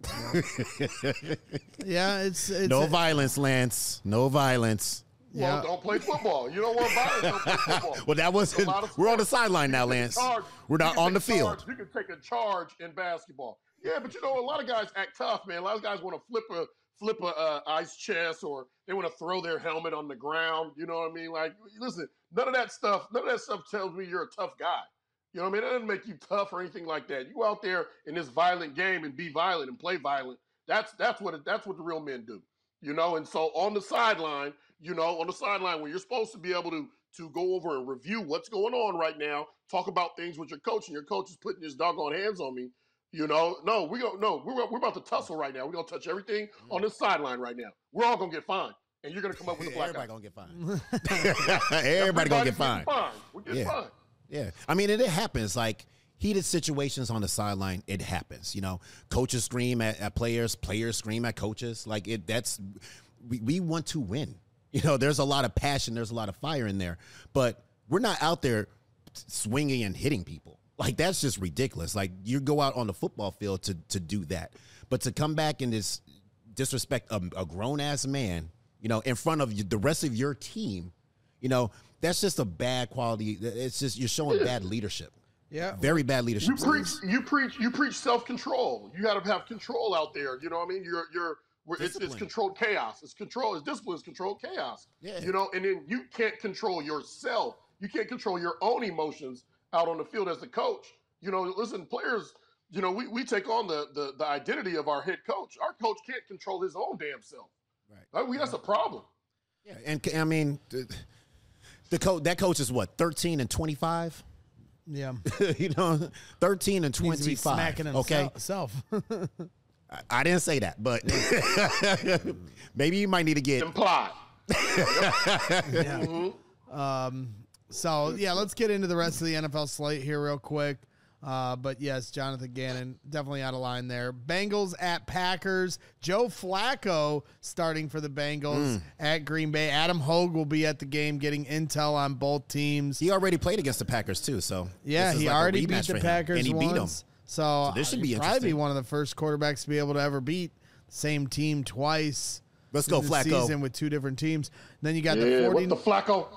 Yeah, it's, it's no violence, Lance. No violence. Yeah. Well, don't play football. You don't want violence. Don't play football. Well, that was There's a lot of we're on the sports. sideline now, You can Lance. take a charge. We're You not can on the take field. charge. You can take a charge in basketball. Yeah, but you know, a lot of guys act tough, man. A lot of guys want to flip a flip a uh, ice chest, or they want to throw their helmet on the ground. You know what I mean? Like, listen, none of that stuff. None of that stuff tells me you're a tough guy. You know what I mean? That doesn't make you tough or anything like that. You go out there in this violent game and be violent and play violent. That's that's what it, that's what the real men do. You know, and so on the sideline, you know, on the sideline when you're supposed to be able to to go over and review what's going on right now, talk about things with your coach, and your coach is putting his doggone hands on me. You know, no, we don't. No, we're we're about to tussle right now. We're gonna touch everything on this sideline right now. We're all gonna get fined, and you're gonna come up with a black Everybody eye. gonna get fined. Everybody gonna get fined. Fine. We get Yeah. fined. Yeah, I mean, it, it happens. Like heated situations on the sideline, it happens. You know, coaches scream at, at players, players scream at coaches. Like it. That's we, we want to win. You know, there's a lot of passion, there's a lot of fire in there, but we're not out there swinging and hitting people. Like that's just ridiculous. Like you go out on the football field to to do that, but to come back and this disrespect a, a grown ass man, you know, in front of you, the rest of your team, you know, that's just a bad quality. It's just you're showing bad leadership. Yeah. Very bad leadership. You preach, you preach, you preach self-control. You got to have control out there. You know what I mean? You're, you're, we're, it's, it's Discipline. controlled chaos. It's control. It's discipline. It's controlled chaos. Yeah. You know, and then you can't control yourself. You can't control your own emotions out on the field as the coach. You know, listen, players. You know, we, we take on the, the the identity of our head coach. Our coach can't control his own damn self. Right. Right? We, that's a problem. Yeah, and I mean, the, the coach that coach is what thirteen and twenty-five. Yeah. You know, thirteen and Needs to be twenty-five. smacking Okay, himself. I, I didn't say that, but maybe you might need to get. Implied. Yeah. Mhm. Um, so, yeah, let's get into the rest of the N F L slate here real quick. Uh, but, yes, Jonathan Gannon, definitely out of line there. Bengals at Packers. Joe Flacco starting for the Bengals at Green Bay. Adam Hogue will be at the game getting intel on both teams. He already played against the Packers too, so Yeah, this is he like a already rematch beat for the him, Packers and he once. beat them. So, this should uh, be he'd probably be interesting. one of the first quarterbacks to be able to ever beat the same team twice. Let's in go, the Flacco. Season with two different teams. Then you got Yeah, the what forty. the Flacco?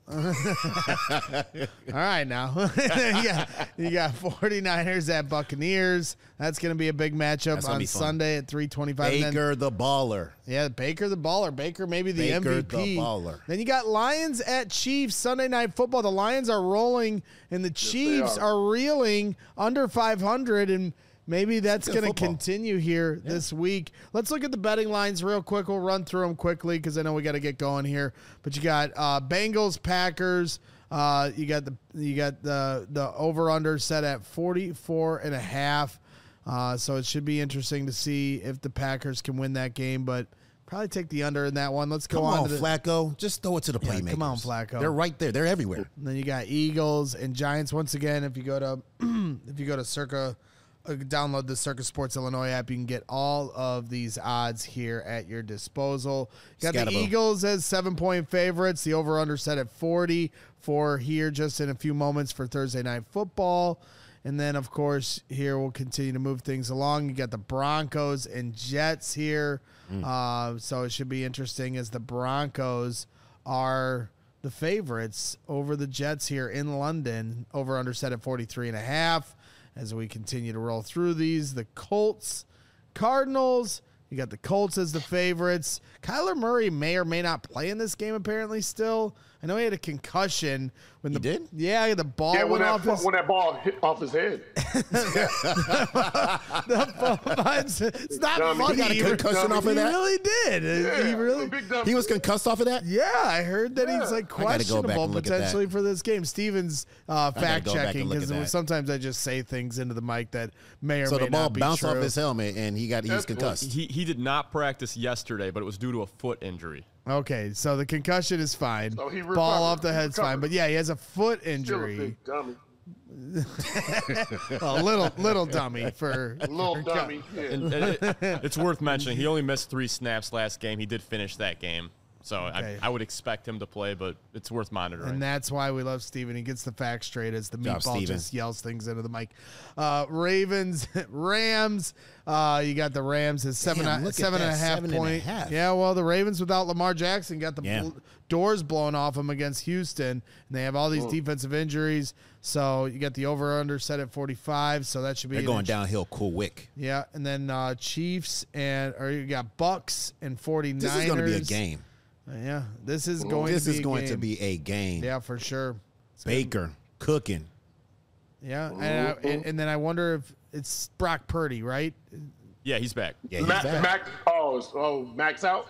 All right, now. you, got, you got 49ers at Buccaneers. That's going to be a big matchup on Sunday at three twenty-five. Baker then, the baller. Yeah, Baker the baller. Baker maybe the Baker M V P. the baller. Then you got Lions at Chiefs Sunday Night Football. The Lions are rolling, and the Chiefs are. are reeling under five hundred, and maybe that's going to continue here yeah. this week. Let's look at the betting lines real quick. We'll run through them quickly because I know we got to get going here. But you got uh, Bengals, Packers. Uh, you got the you got the the over under set at forty-four and a half. Uh, so it should be interesting to see if the Packers can win that game, but probably take the under in that one. Let's go Come on, on to the Flacco. Just throw it to the yeah, playmakers. Come on, Flacco. They're right there. They're everywhere. And then you got Eagles and Giants once again. If you go to if you go to Circa, uh, download the Circa Sports Illinois app, you can get all of these odds here at your disposal. You got Scatable. the Eagles as seven point favorites. The over under set at forty for here just in a few moments for Thursday Night Football. And then, of course, here we'll continue to move things along. You got the Broncos and Jets here. Mm. Uh, so it should be interesting as the Broncos are the favorites over the Jets here in London. Over under set at forty-three and a half. As we continue to roll through these, the Colts, Cardinals. You got the Colts as the favorites. Kyler Murray may or may not play in this game apparently still. I know he had a concussion when the he did. Yeah, the ball yeah, went when off that, his when that ball hit off his head. the ball, it's, it's not Dummy. funny. He got a concussion off of that? He really did. Yeah, he really big dummy. He was concussed off of that? Yeah, I heard that Yeah. he's like I gotta go back questionable and look at potentially that. for this game. Steven's uh, gotta fact go back and checking look at because that. sometimes I just say things into the mic that may or So may the ball not be bounced true. off his helmet and he got he was That's- concussed. He he did not practice yesterday, but it was due to a foot injury. Okay, so the concussion is fine. So he Ball recovered. off the He head's fine, recovered. but yeah, he has a foot Still a injury. big dummy. A little little dummy for Little dummy. Yeah. And, and it, it's worth mentioning he only missed three snaps last game. He did finish that game, so Okay. I, I would expect him to play, but it's worth monitoring. And that's why we love Steven. He gets the facts straight as the Job, meatball Steven. just yells things into the mic. Uh, Ravens, Rams. Uh, you got the Rams at seven, Damn, look at seven and a that, half seven and a point. half. Yeah, well, the Ravens without Lamar Jackson got the Yeah. bl- doors blown off them against Houston, and they have all these defensive injuries. So you got the over/under set at forty-five. So that should be They're an going int- downhill quick. Yeah, and then uh, Chiefs and or you got Bucks and 49ers. This is going to be a game. Yeah, this is going. This to be is a going game. to be a game. Yeah, for sure. Baker cooking. Yeah, and, I, and, and then I wonder if it's Brock Purdy, right? yeah, he's back. Yeah, he's Mac, back. Mac, oh, oh, Max out.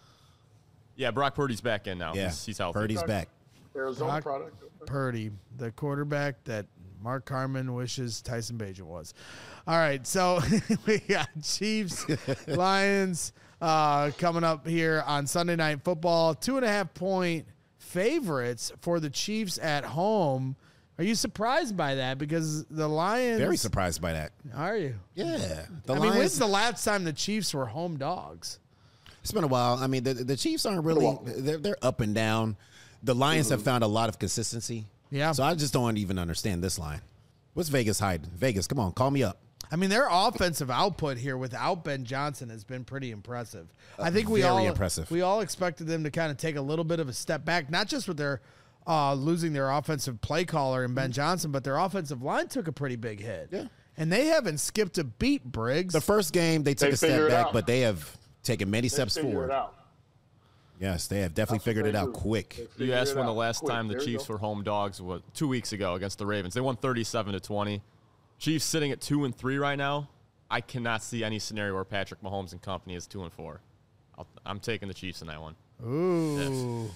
Yeah, Brock Purdy's back in now. Yeah, He's, he's healthy. Purdy's back. Arizona Brock product. Purdy, the quarterback that Mark Carman wishes Tyson Bagent was. All right, so we got Chiefs, Lions uh, coming up here on Sunday Night Football. Two and a half point favorites for the Chiefs at home. Are you surprised by that? Because the Lions. Very surprised by that. Are you? Yeah. The I mean, Lions, when's the last time the Chiefs were home dogs? it's been a while. I mean, the, the Chiefs aren't really, they're, they're up and down. The Lions have found a lot of consistency. Yeah. So I just don't even understand this line. What's Vegas hiding? Vegas, come on, call me up. I mean, their offensive output here without Ben Johnson has been pretty impressive. I think we very all impressive. we all expected them to kind of take a little bit of a step back, not just with their uh, losing their offensive play caller in Ben Johnson, but their offensive line took a pretty big hit. Yeah. And they haven't skipped a beat, Briggs. The first game, they took They a step figured it back, out. but they have taken many They steps figure forward. it out. Yes, they have definitely That's what figured it they out do. quick. They You figure asked it when the out last quick. time the There you Chiefs go. were home dogs was two weeks ago against the Ravens. They won thirty-seven to twenty. Chiefs sitting at two and three right now. I cannot see any scenario where Patrick Mahomes and company is two and four. I'll, I'm taking the Chiefs in that one. Ooh.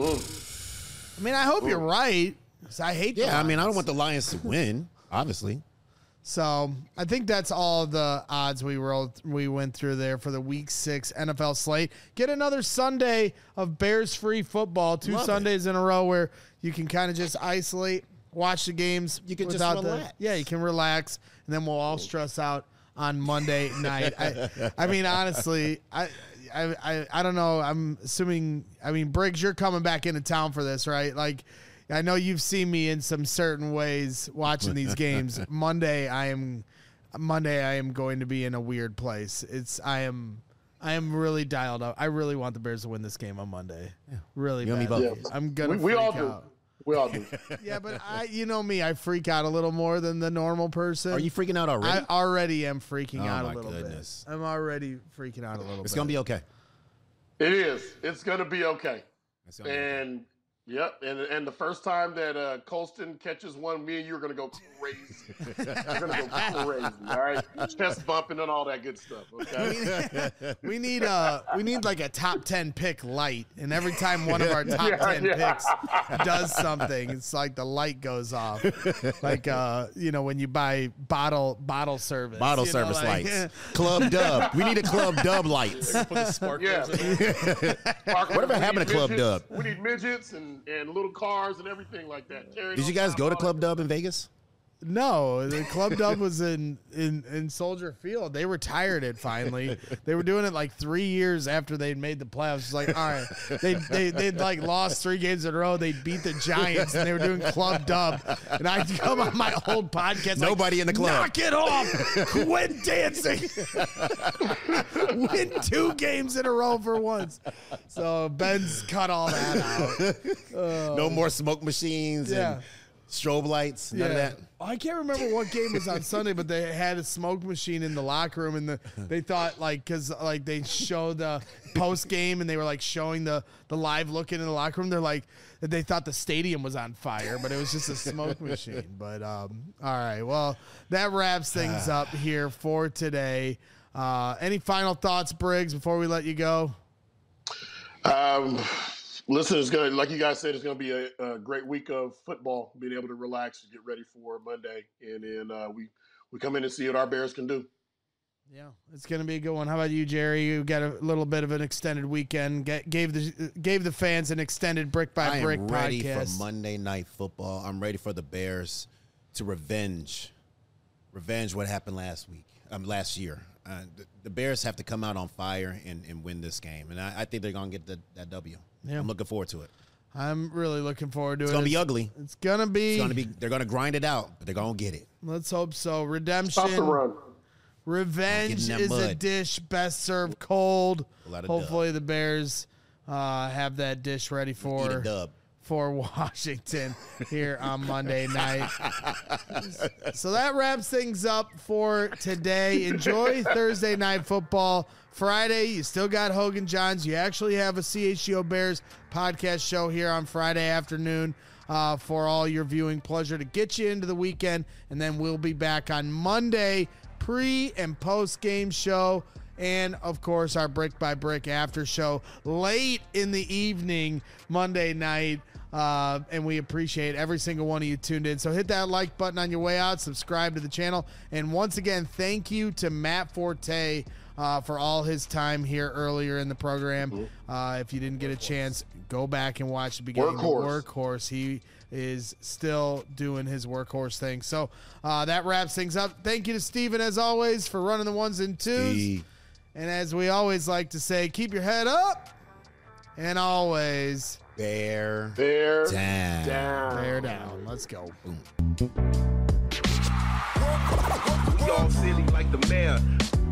Mm. I mean, I hope you're right. 'Cause I hate. the Yeah, I mean, I don't Lions. want the Lions to win, obviously. So I think that's all the odds we rolled. We went through there for the Week Six N F L slate. Get another Sunday of Bears free football. Two Love it. Sundays in a row where you can kind of just isolate, watch the games. You can just without the- relax. yeah, you can relax, and then we'll all stress out on Monday night. I, I mean, honestly, I, I, I, I don't know. I'm assuming. I mean, Briggs, you're coming back into town for this, right? Like. I know you've seen me in some certain ways watching these games. Monday, I am Monday. I am going to be in a weird place. It's I am I am really dialed up. I really want the Bears to win this game on Monday. Really You and me badly. both. I'm gonna We- we freak all do. out. We all do. Yeah, but I, you know me, I freak out a little more than the normal person. Are you freaking out already? I already am freaking Oh, out a my little goodness. bit. I'm already freaking out a little It's bit. gonna be okay. It is. It's gonna be okay. It's gonna be okay. And yep, and and the first time that uh, Colston catches one, me and you are gonna go crazy. We're gonna go crazy. All right, chest bumping and all that good stuff. Okay. We need uh we need like a top ten pick light, and every time one of our top Yeah, ten yeah. picks does something, it's like the light goes off. Like uh you know when you buy bottle bottle service. Bottle you know, service like- lights. Club Dub. We need a Club Dub lights. Put the sparklers Yeah. in there. Parker, Whatever we happened need to Club midgets. Dub? We need midgets and, and little cars and everything like that. Carrying Did you on guys top go to of Club it. Dub in Vegas? No, the Club Dub was in, in, in Soldier Field. They retired it finally. They were doing it like three years after they'd made the playoffs. It's like, all right, they they they'd like lost three games in a row. They'd beat the Giants, and they were doing Club Dub. And I'd come on my old podcast. Nobody like, in the club. Knock it off. Quit dancing. Win two games in a row for once. So Ben's cut all that out. No more smoke machines Yeah. and strobe lights. None of that. I can't remember what game was on Sunday, but they had a smoke machine in the locker room, and the, they thought like because like they showed the post game, and they were like showing the the live look in the locker room. They're like they thought the stadium was on fire, but it was just a smoke machine. But um, all right, well that wraps things up here for today. Uh, any final thoughts, Briggs, before we let you go? Um, listen, it's gonna, like you guys said, it's gonna be a, a great week of football. Being able to relax and get ready for Monday, and then uh, we we come in and see what our Bears can do. Yeah, it's gonna be a good one. How about you, Jerry? You got a little bit of an extended weekend. Get, gave the gave the fans an extended brick by I brick am ready podcast. for Monday Night Football. I'm ready for the Bears to revenge, revenge what happened last week, um, last year. Uh, the, the Bears have to come out on fire and, and win this game, and I, I think they're gonna get the, that W. Yeah. I'm looking forward to it. I'm really looking forward to It's it. gonna be ugly. It's gonna be. It's gonna be. They're gonna grind it out, but they're gonna get it. Let's hope so. Stop the Redemption, run. revenge Get in that is a mud. dish best served cold. A lot of Hopefully, the Bears uh, have that dish ready Eat a for dub. for Washington here on Monday night. So that wraps things up for today. Enjoy Thursday night football. Friday, you still got Hogan Johns. You actually have a C H G O Bears podcast show here on Friday afternoon uh, for all your viewing pleasure to get you into the weekend. And then we'll be back on Monday, pre and post game show. And, of course, our Brick by Brick after show late in the evening, Monday night. Uh, and we appreciate every single one of you tuned in. So hit that like button on your way out. Subscribe to the channel. And once again, thank you to Matt Forte uh, for all his time here earlier in the program. Uh, if you didn't get a chance, go back and watch the beginning. Workhorse. The workhorse. He is still doing his workhorse thing. So uh, that wraps things up. Thank you to Steven, as always, for running the ones and twos. Steve. And as we always like to say, keep your head up and always Bear Bear down. down. bear down. Let's go. We all silly like the mayor.